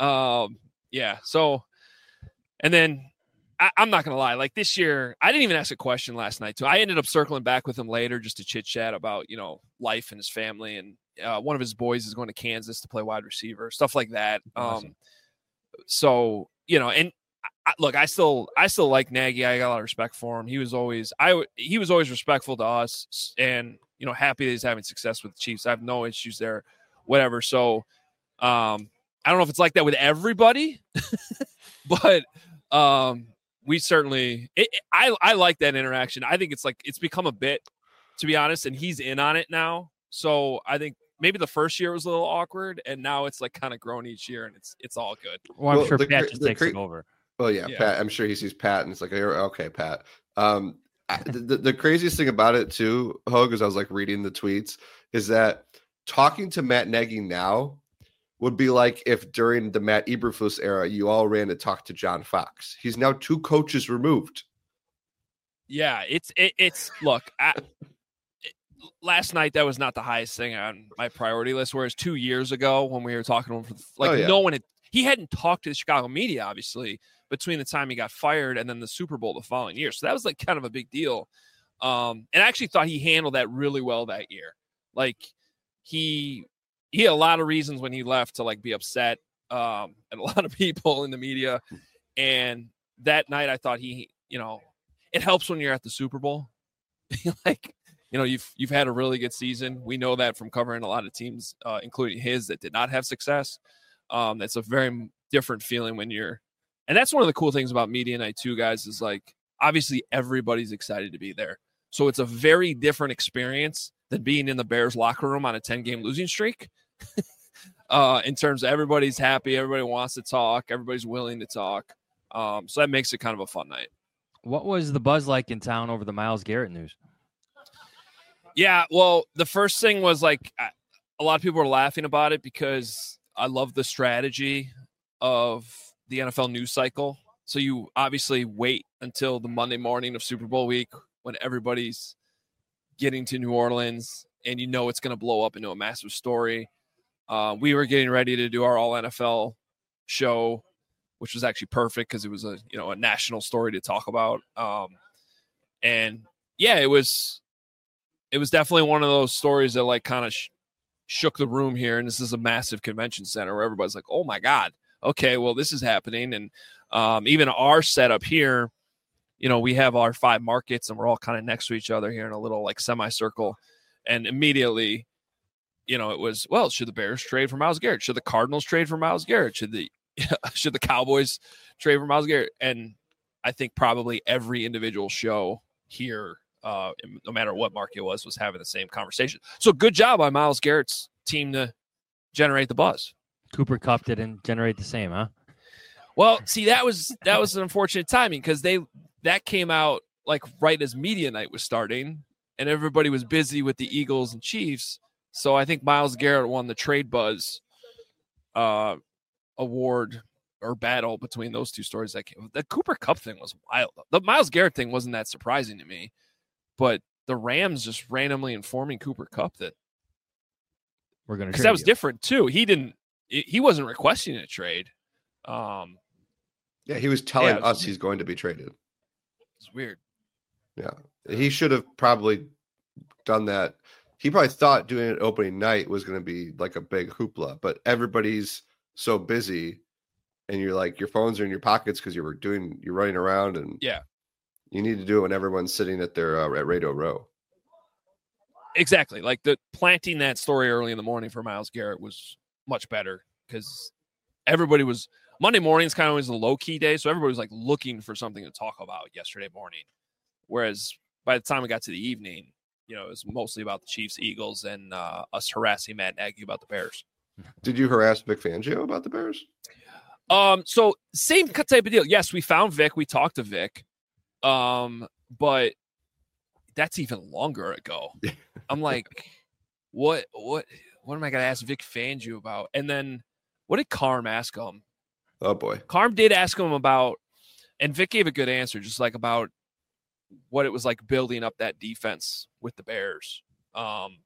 Yeah. So, and then I'm not going to lie. Like this year, I didn't even ask a question last night too. I ended up circling back with him later just to chit chat about, life and his family. And one of his boys is going to Kansas to play wide receiver, stuff like that. Awesome. So, and look, I still like Nagy. I got a lot of respect for him. He was always respectful to us and, happy that he's having success with the Chiefs. I have no issues there, whatever. So, I don't know if it's like that with everybody, but, we certainly, I like that interaction. I think it's become a bit, to be honest, and he's in on it now. So I think maybe the first year was a little awkward, and now it's like kind of grown each year, and it's all good. Well, I'm sure Pat just takes it over. Well, yeah, Pat. I'm sure he sees Pat, and it's like, okay, Pat. The craziest thing about it too, Hogue, as I was like reading the tweets, is that talking to Matt Nagy now would be like if during the Matt Eberflus era, you all ran to talk to John Fox. He's now 2 coaches removed. Yeah, it's look, last night that was not the highest thing on my priority list. Whereas 2 years ago when we were talking to him, no one he hadn't talked to the Chicago media, obviously, between the time he got fired and then the Super Bowl the following year. So that was like kind of a big deal. And I actually thought he handled that really well that year. Like he had a lot of reasons when he left to like be upset at a lot of people in the media. And that night I thought it helps when you're at the Super Bowl. Like, you've had a really good season. We know that from covering a lot of teams, including his, that did not have success. That's a very different feeling and that's one of the cool things about media night too, guys, is like, obviously everybody's excited to be there. So it's a very different experience than being in the Bears locker room on a 10-game losing streak. In terms of everybody's happy, everybody wants to talk, everybody's willing to talk. So that makes it kind of a fun night. What was the buzz like in town over the Myles Garrett news? Yeah, well, the first thing was like a lot of people were laughing about it because I love the strategy of the NFL news cycle. So you obviously wait until the Monday morning of Super Bowl week when everybody's getting to New Orleans and it's going to blow up into a massive story. We were getting ready to do our all NFL show, which was actually perfect because it was a national story to talk about. And yeah, it was definitely one of those stories that like kind of shook the room here. And this is a massive convention center where everybody's like, oh my God, okay, well, this is happening. And even our setup here, we have our 5 markets and we're all kind of next to each other here in a little like semicircle. And immediately, it was, well, should the Bears trade for Myles Garrett? Should the Cardinals trade for Myles Garrett? Should the Cowboys trade for Myles Garrett? And I think probably every individual show here, no matter what market it was having the same conversation. So good job on Myles Garrett's team to generate the buzz. Cooper Kupp didn't generate the same, huh? Well, see, that was an unfortunate timing because that came out like right as media night was starting and everybody was busy with the Eagles and Chiefs. So I think Myles Garrett won the trade buzz award or battle between those two stories. The Cooper Kupp thing was wild. The Myles Garrett thing wasn't that surprising to me, but the Rams just randomly informing Cooper Kupp that we're going to. That was different too. He wasn't requesting a trade. Yeah, he was telling us he's going to be traded. It's weird. Yeah, he should have probably done that. He probably thought doing it opening night was going to be like a big hoopla, but everybody's so busy, and you're like your phones are in your pockets because you're running around, and You need to do it when everyone's sitting at their at Radio Row. Exactly. Like the planting that story early in the morning for Myles Garrett was much better because everybody was Monday morning's kind of always a low key day. So everybody was like looking for something to talk about yesterday morning. Whereas by the time we got to the evening, it was mostly about the Chiefs, Eagles, and us harassing Matt Nagy about the Bears. Did you harass Vic Fangio about the Bears? So same type of deal. Yes, we found Vic. We talked to Vic. But that's even longer ago. I'm like, what am I going to ask Vic Fangio about? And then what did Carm ask him? Oh boy. Carm did ask him about, and Vic gave a good answer, just like about what it was like building up that defense with the Bears. And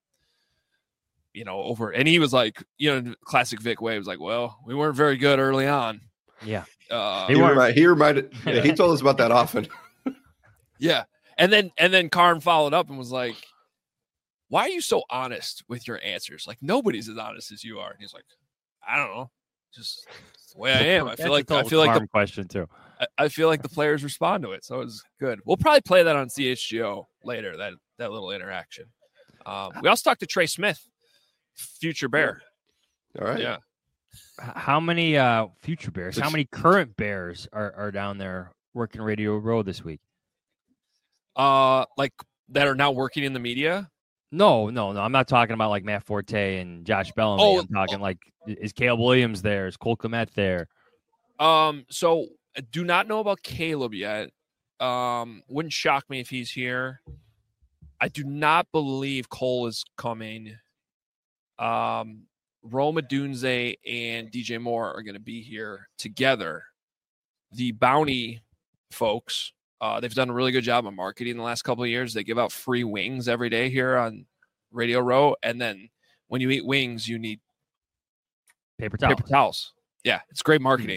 he was like, classic Vic way, was like, well, we weren't very good early on. Yeah. He reminded, he told us about that often. Yeah. And then Carm followed up and was like, why are you so honest with your answers? Like nobody's as honest as you are. And he's like, I don't know. Just the way I am. I feel like the question too. I feel like the players respond to it. So it was good. We'll probably play that on CHGO later, that little interaction. We also talked to Trey Smith, future Bear. All right. Yeah. How many future Bears, how many current Bears are down there working Radio Row this week? Like that are now working in the media? No. I'm not talking about like Matt Forte and Josh Bellamy. I'm talking like, is Caleb Williams there? Is Cole Kmet there? So I do not know about Caleb yet. Wouldn't shock me if he's here. I do not believe Cole is coming. Rome Odunze and DJ Moore are going to be here together. The Bounty folks, they've done a really good job of marketing the last couple of years. They give out free wings every day here on Radio Row. And then when you eat wings, you need paper towels. Yeah, it's great marketing.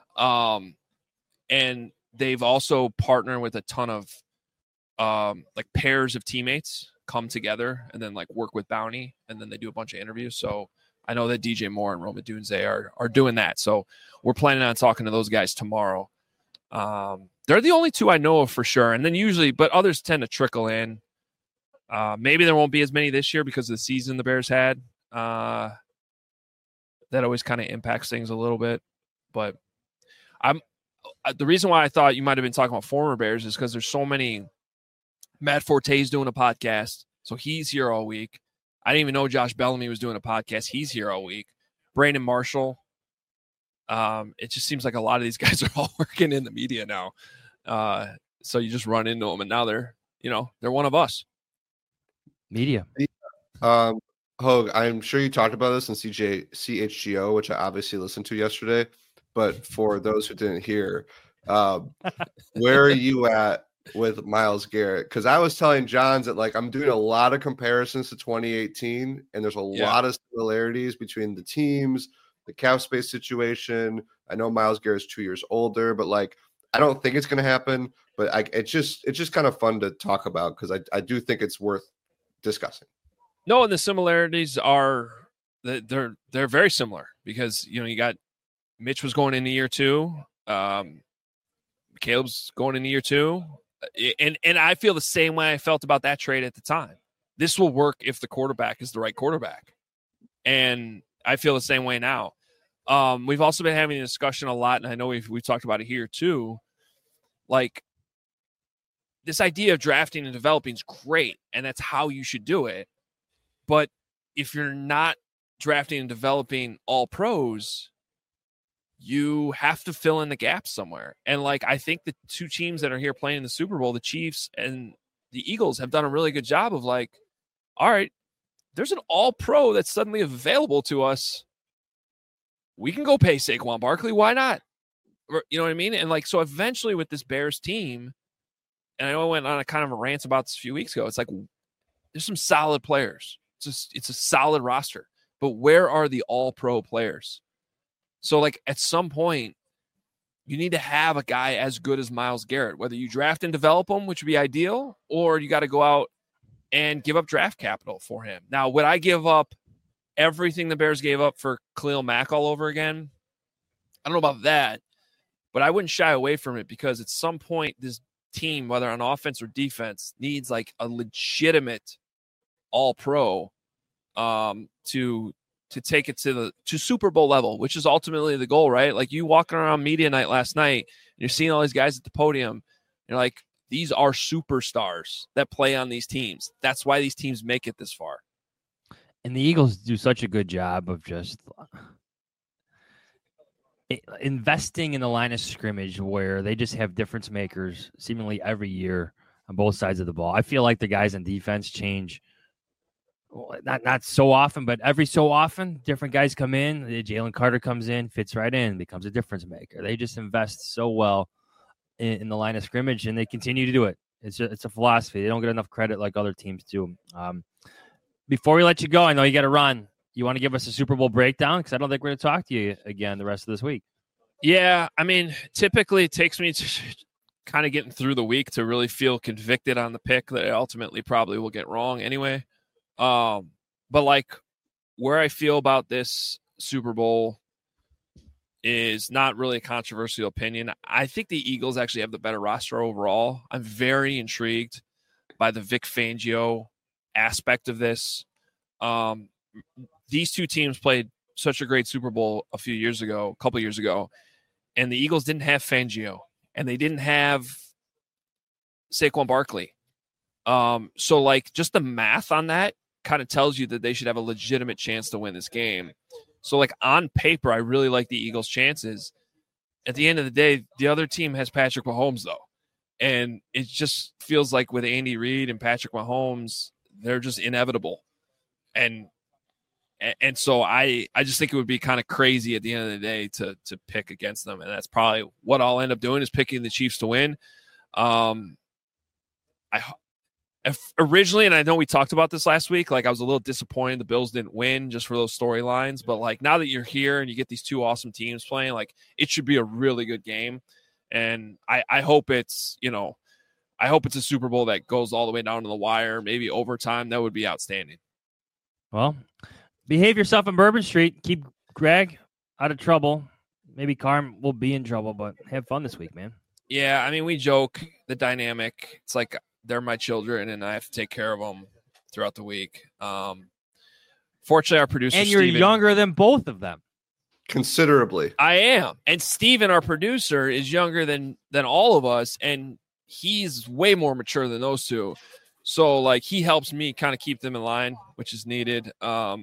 And they've also partnered with a ton of like pairs of teammates come together and then like work with Bounty, and then they do a bunch of interviews. So I know that DJ Moore and Rome Odunze are doing that. So we're planning on talking to those guys tomorrow. They're the only two I know of for sure. And then usually, but others tend to trickle in. Maybe there won't be as many this year because of the season the Bears had. That always kind of impacts things a little bit. But the reason why I thought you might have been talking about former Bears is because there's so many. Matt Forte's doing a podcast, so he's here all week. I didn't even know Josh Bellamy was doing a podcast. He's here all week. Brandon Marshall. It just seems like a lot of these guys are all working in the media now. So you just run into them, and now they're one of us. Media. Hogue, I'm sure you talked about this in CHGO, which I obviously listened to yesterday. But for those who didn't hear, where are you at with Myles Garrett? Because I was telling Johns that like I'm doing a lot of comparisons to 2018, and there's a lot of similarities between the teams, the cap space situation. I know Myles Garrett's 2 years older, but like I don't think it's going to happen. But it's just kind of fun to talk about because I do think it's worth discussing. No, and the similarities are they're very similar because you got Mitch was going into year 2. Caleb's going into year 2. And I feel the same way I felt about that trade at the time. This will work if the quarterback is the right quarterback. And I feel the same way now. We've also been having a discussion a lot, and I know we've talked about it here too. Like, this idea of drafting and developing is great, and that's how you should do it. But if you're not drafting and developing all pros, you have to fill in the gaps somewhere. And like, I think the two teams that are here playing in the Super Bowl, the Chiefs and the Eagles, have done a really good job of like, all right, there's an all pro that's suddenly available to us. We can go pay Saquon Barkley. Why not? You know what I mean? And like, so eventually with this Bears team, and I know I went on a kind of a rant about this a few weeks ago. It's like, there's some solid players. It's a solid roster, but where are the all pro players? So, like, at some point, you need to have a guy as good as Myles Garrett, whether you draft and develop him, which would be ideal, or you got to go out and give up draft capital for him. Now, would I give up everything the Bears gave up for Khalil Mack all over again? I don't know about that, but I wouldn't shy away from it because at some point, this team, whether on offense or defense, needs like a legitimate all-pro to take it to Super Bowl level, which is ultimately the goal, right? Like you walking around media night last night, and you're seeing all these guys at the podium. You're like, these are superstars that play on these teams. That's why these teams make it this far. And the Eagles do such a good job of just investing in the line of scrimmage where they just have difference makers seemingly every year on both sides of the ball. I feel like the guys on defense change. Not so often, but every so often, different guys come in. Jalen Carter comes in, fits right in, becomes a difference maker. They just invest so well in the line of scrimmage, and they continue to do it. It's a philosophy. They don't get enough credit like other teams do. Before we let you go, I know you got to run. You want to give us a Super Bowl breakdown? Because I don't think we're going to talk to you again the rest of this week. Yeah, I mean, typically it takes me to kind of getting through the week to really feel convicted on the pick that I ultimately probably will get wrong anyway. But like where I feel about this Super Bowl is not really a controversial opinion. I think the Eagles actually have the better roster overall. I'm very intrigued by the Vic Fangio aspect of this. These two teams played such a great Super Bowl a couple years ago, and the Eagles didn't have Fangio and they didn't have Saquon Barkley. So like just the math on that kind of tells you that they should have a legitimate chance to win this game. So like on paper, I really like the Eagles' chances. At the end of the day, the other team has Patrick Mahomes though. And it just feels like with Andy Reid and Patrick Mahomes, they're just inevitable. And so I just think it would be kind of crazy at the end of the day to pick against them. And that's probably what I'll end up doing is picking the Chiefs to win. Originally, and I know we talked about this last week, like I was a little disappointed the Bills didn't win just for those storylines. But like now that you're here and you get these two awesome teams playing, like it should be a really good game. And I hope it's, I hope it's a Super Bowl that goes all the way down to the wire, maybe overtime. That would be outstanding. Well, behave yourself in Bourbon Street. Keep Greg out of trouble. Maybe Carm will be in trouble, but have fun this week, man. Yeah, I mean, we joke the dynamic. It's like they're my children, and I have to take care of them throughout the week. Fortunately, our producer, and you're Steven, younger than both of them. Considerably. I am. And Steven, our producer, is younger than all of us, and he's way more mature than those two. So, like, he helps me kind of keep them in line, which is needed.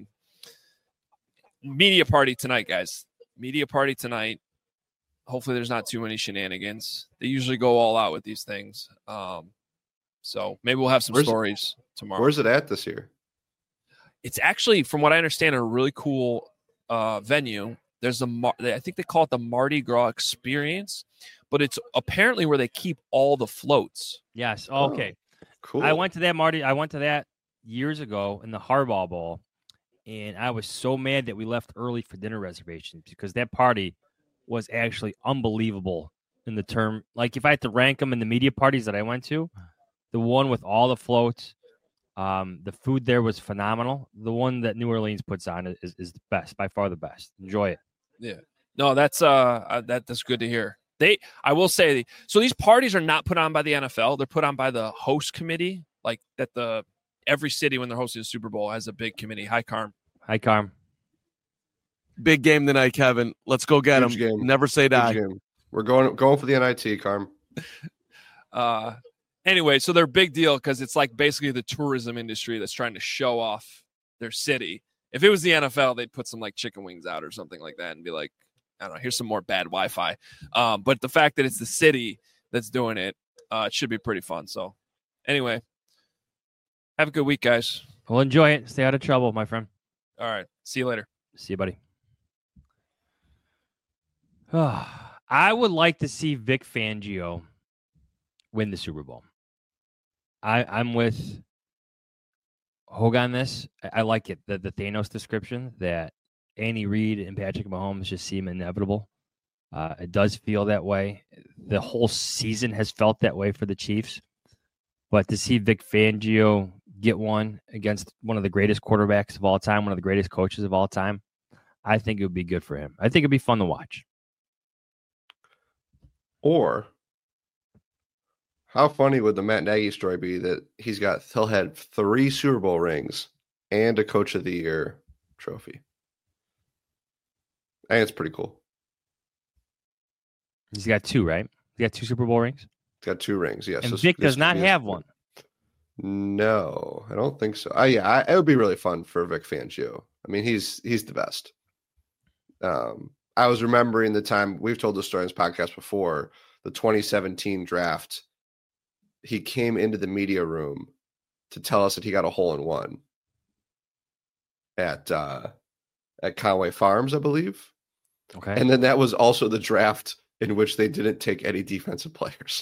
Media party tonight, guys. Media party tonight. Hopefully there's not too many shenanigans. They usually go all out with these things. So maybe we'll have some stories tomorrow. Where's it at this year? It's actually, from what I understand, a really cool venue. There's I think they call it the Mardi Gras Experience, but it's apparently where they keep all the floats. Yes. Okay. Cool. I went to that years ago in the Harbaugh Bowl, and I was so mad that we left early for dinner reservations because that party was actually unbelievable in the term. Like if I had to rank them in the media parties that I went to, the one with all the floats, the food there was phenomenal. The one that New Orleans puts on is the best, by far the best. Enjoy it. Yeah. No, that's good to hear. I will say, so these parties are not put on by the NFL. They're put on by the host committee. Like that every city when they're hosting a Super Bowl has a big committee. Hi, Carm. Hi, Carm. Big game tonight, Kevin. Let's go get him. Game. Never say die. We're going for the NIT, Carm. Anyway, so they're a big deal because it's like basically the tourism industry that's trying to show off their city. If it was the NFL, they'd put some like chicken wings out or something like that and be like, I don't know, here's some more bad Wi-Fi. But the fact that it's the city that's doing it, it should be pretty fun. So anyway, have a good week, guys. Well, enjoy it. Stay out of trouble, my friend. All right. See you later. See you, buddy. I would like to see Vic Fangio win the Super Bowl. I'm with Hogue on this. I like it. The Thanos description that Andy Reid and Patrick Mahomes just seem inevitable. It does feel that way. The whole season has felt that way for the Chiefs. But to see Vic Fangio get one against one of the greatest quarterbacks of all time, one of the greatest coaches of all time, I think it would be good for him. I think it'd be fun to watch. Or How funny would the Matt Nagy story be that he'll had 3 Super Bowl rings and a Coach of the Year trophy? I think it's pretty cool. He's got 2, right? He got 2 Super Bowl rings. He's got 2 rings. Yes. And Vic does not have one. No, I don't think so. It would be really fun for Vic Fangio. I mean, he's the best. I was remembering the time we've told the story in this podcast before, the 2017 draft. He came into the media room to tell us that he got a hole-in-one at Conway Farms, I believe. Okay. And then that was also the draft in which they didn't take any defensive players.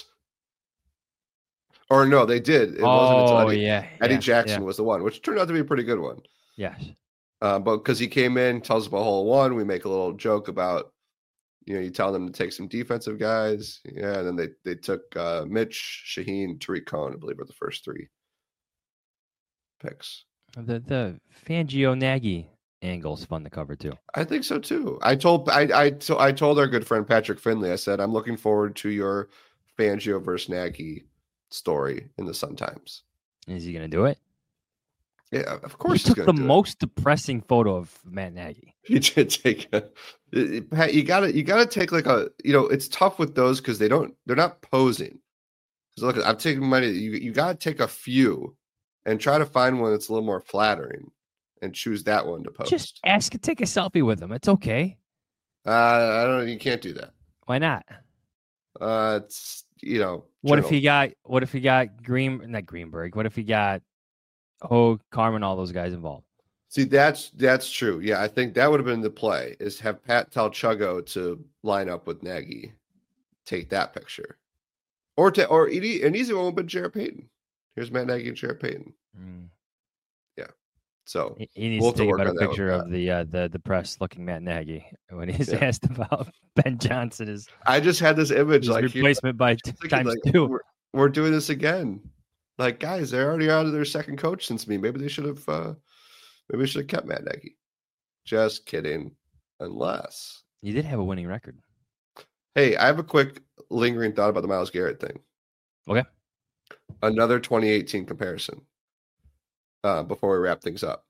Or no, they did. It wasn't until Eddie Jackson was the one, which turned out to be a pretty good one. Yes. But because he came in, tells us about hole-in-one, we make a little joke about, you tell them to take some defensive guys. Yeah, and then they took Mitch, Shaheen, Tariq Cohen, I believe, were the first 3 picks. The Fangio Nagy angle's fun to cover too. I think so too. I told our good friend Patrick Finley, I said, I'm looking forward to your Fangio versus Nagy story in the Sun Times. Is he going to do it? Yeah, of course. He took the most depressing photo of Matt Nagy. He did take Pat, you gotta take like it's tough with those because they're not posing. Because look, I'm taking money. You gotta take a few and try to find one that's a little more flattering and choose that one to post. Just ask to take a selfie with him. It's okay. I don't know. You can't do that. Why not? It's What if he got not Greenberg? What if he got Carmen, all those guys involved? See, that's true. Yeah, I think that would have been the play, is have Pat tell Chuggo to line up with Nagy, take that picture. Or an easy one would be Jarrett Payton. Here's Matt Nagy and Jarrett Payton. Yeah. So he needs to take a better picture of the press looking Matt Nagy when he's asked about Ben Johnson. I just had this image like replacement by times 2. We're doing this again. Like, guys, they're already out of their second coach since me. Maybe they should have kept Matt Nagy. Just kidding. Unless you did have a winning record. Hey, I have a quick lingering thought about the Myles Garrett thing. Okay. Another 2018 comparison. Before we wrap things up.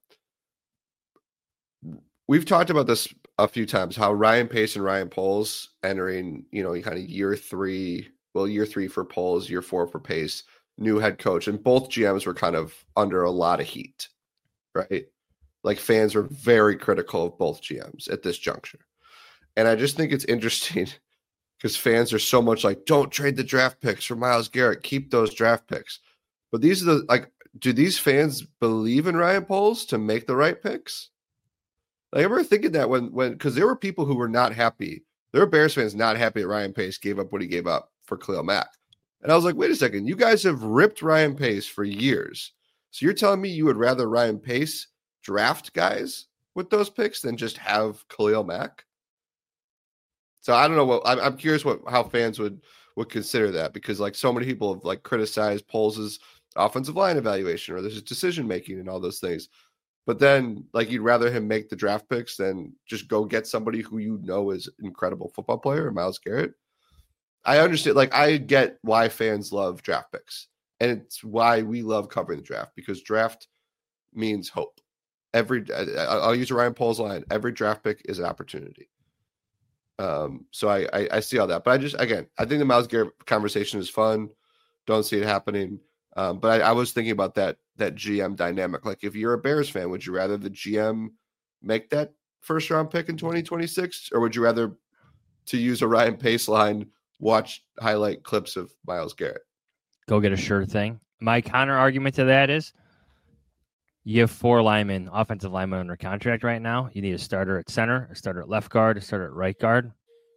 We've talked about this a few times, how Ryan Pace and Ryan Poles entering, kind of year 3 for Poles, year 4 for Pace, new head coach, and both GMs were kind of under a lot of heat, right? Like, fans were very critical of both GMs at this juncture. And I just think it's interesting because fans are so much like, don't trade the draft picks for Myles Garrett, keep those draft picks. But these are do these fans believe in Ryan Poles to make the right picks? Like, I remember thinking that when because there were people who were not happy. There were Bears fans not happy that Ryan Pace gave up what he gave up for Khalil Mack. And I was like, wait a second, you guys have ripped Ryan Pace for years. So you're telling me you would rather Ryan Pace draft guys with those picks than just have Khalil Mack? So I don't know I'm curious how fans would consider that, because like so many people have like criticized Poles' offensive line evaluation or there's decision making and all those things. But then like you'd rather him make the draft picks than just go get somebody who is an incredible football player, Myles Garrett. I understand, like I get why fans love draft picks. And it's why we love covering the draft, because draft means hope. I'll use a Ryan Poles line. Every draft pick is an opportunity. So I see all that, but I think the Myles Garrett conversation is fun. Don't see it happening. But I was thinking about that GM dynamic. Like, if you're a Bears fan, would you rather the GM make that first round pick in 2026, or would you rather, to use a Ryan Pace line, watch highlight clips of Myles Garrett? Go get a sure thing. My counter argument to that is, you have 4 offensive linemen under contract right now. You need a starter at center, a starter at left guard, a starter at right guard.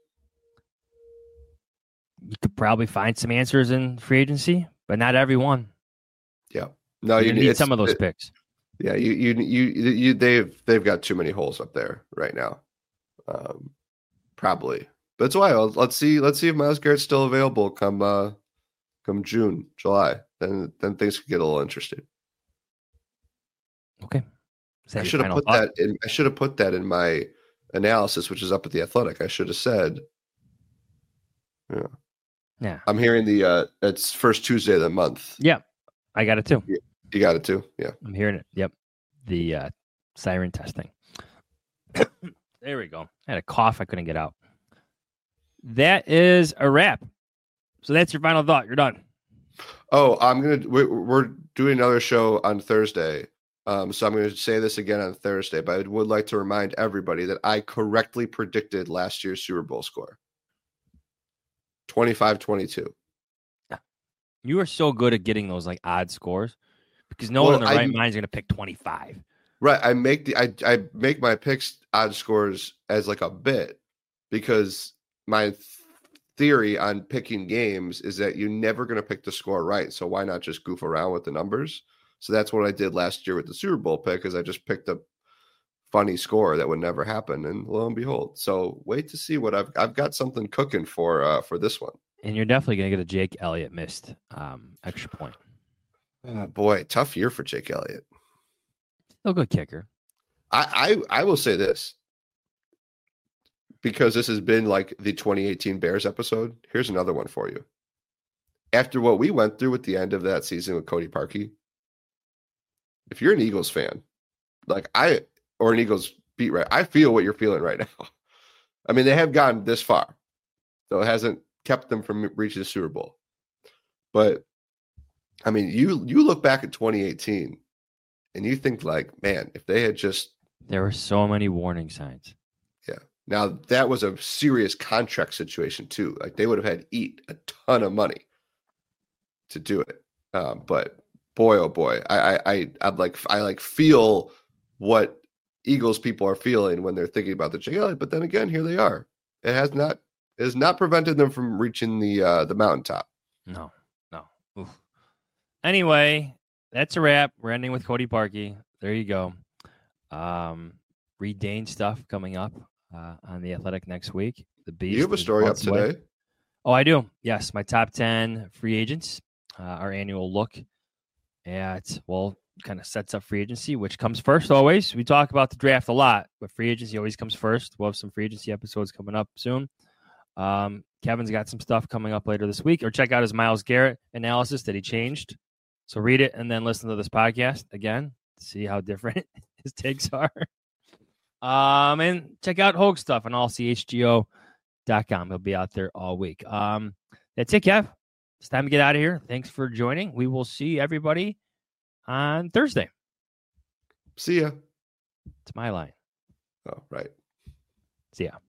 You could probably find some answers in free agency, but not everyone. Yeah, no, you need some of those picks. Yeah, they've got too many holes up there right now. Probably, but it's wild. Let's see if Myles Garrett's still available come June, July. Then things could get a little interesting. Okay. I should have put that in my analysis, which is up at The Athletic. I should have said, yeah. Yeah. I'm hearing it's first Tuesday of the month. Yeah. I got it too. You got it too? Yeah. I'm hearing it. Yep. The siren testing. There we go. I had a cough I couldn't get out. That is a wrap. So that's your final thought. You're done. Oh, we're doing another show on Thursday. So I'm going to say this again on Thursday, but I would like to remind everybody that I correctly predicted last year's Super Bowl score. 25-22. You are so good at getting those like odd scores because no one in the right mind is going to pick 25. Right. I make my picks odd scores as like a bit because my theory on picking games is that you're never going to pick the score right. So why not just goof around with the numbers? So that's what I did last year with the Super Bowl pick, is I just picked a funny score that would never happen, and lo and behold. So wait to see what I've got something cooking for this one. And you're definitely going to get a Jake Elliott missed extra point. Boy, tough year for Jake Elliott. Still good kicker. I will say this, because this has been like the 2018 Bears episode. Here's another one for you. After what we went through at the end of that season with Cody Parkey, if you're an Eagles fan, or an Eagles beat writer, I feel what you're feeling right now. I mean, they have gone this far, so it hasn't kept them from reaching the Super Bowl. But I mean, you look back at 2018 and you think like, man, if they had just... There were so many warning signs. Yeah. Now, that was a serious contract situation too. Like, they would have had to eat a ton of money to do it. But boy, oh boy, I feel what Eagles people are feeling when they're thinking about the Jake Elliott. But then again, here they are. It has not prevented them from reaching the mountaintop. No. Oof. Anyway, that's a wrap. We're ending with Cody Parkey. There you go. Reed Dane stuff coming up on The Athletic next week. The Beast. You have a story up today. Oh, I do. Yes, my top 10 free agents. Our annual look at, kind of sets up free agency, which comes first always. We talk about the draft a lot, but free agency always comes first. We'll have some free agency episodes coming up soon. Kevin's got some stuff coming up later this week, or check out his Myles Garrett analysis that he changed. So read it and then listen to this podcast again to see how different his takes are. And check out Hogue stuff on allchgo.com. He'll be out there all week. That's it, Kev. It's time to get out of here. Thanks for joining. We will see everybody on Thursday. See ya. It's my line. Oh, right. See ya.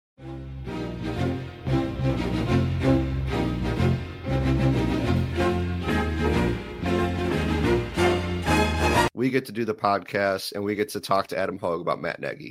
We get to do the podcast and we get to talk to Adam Hogue about Matt Nagy.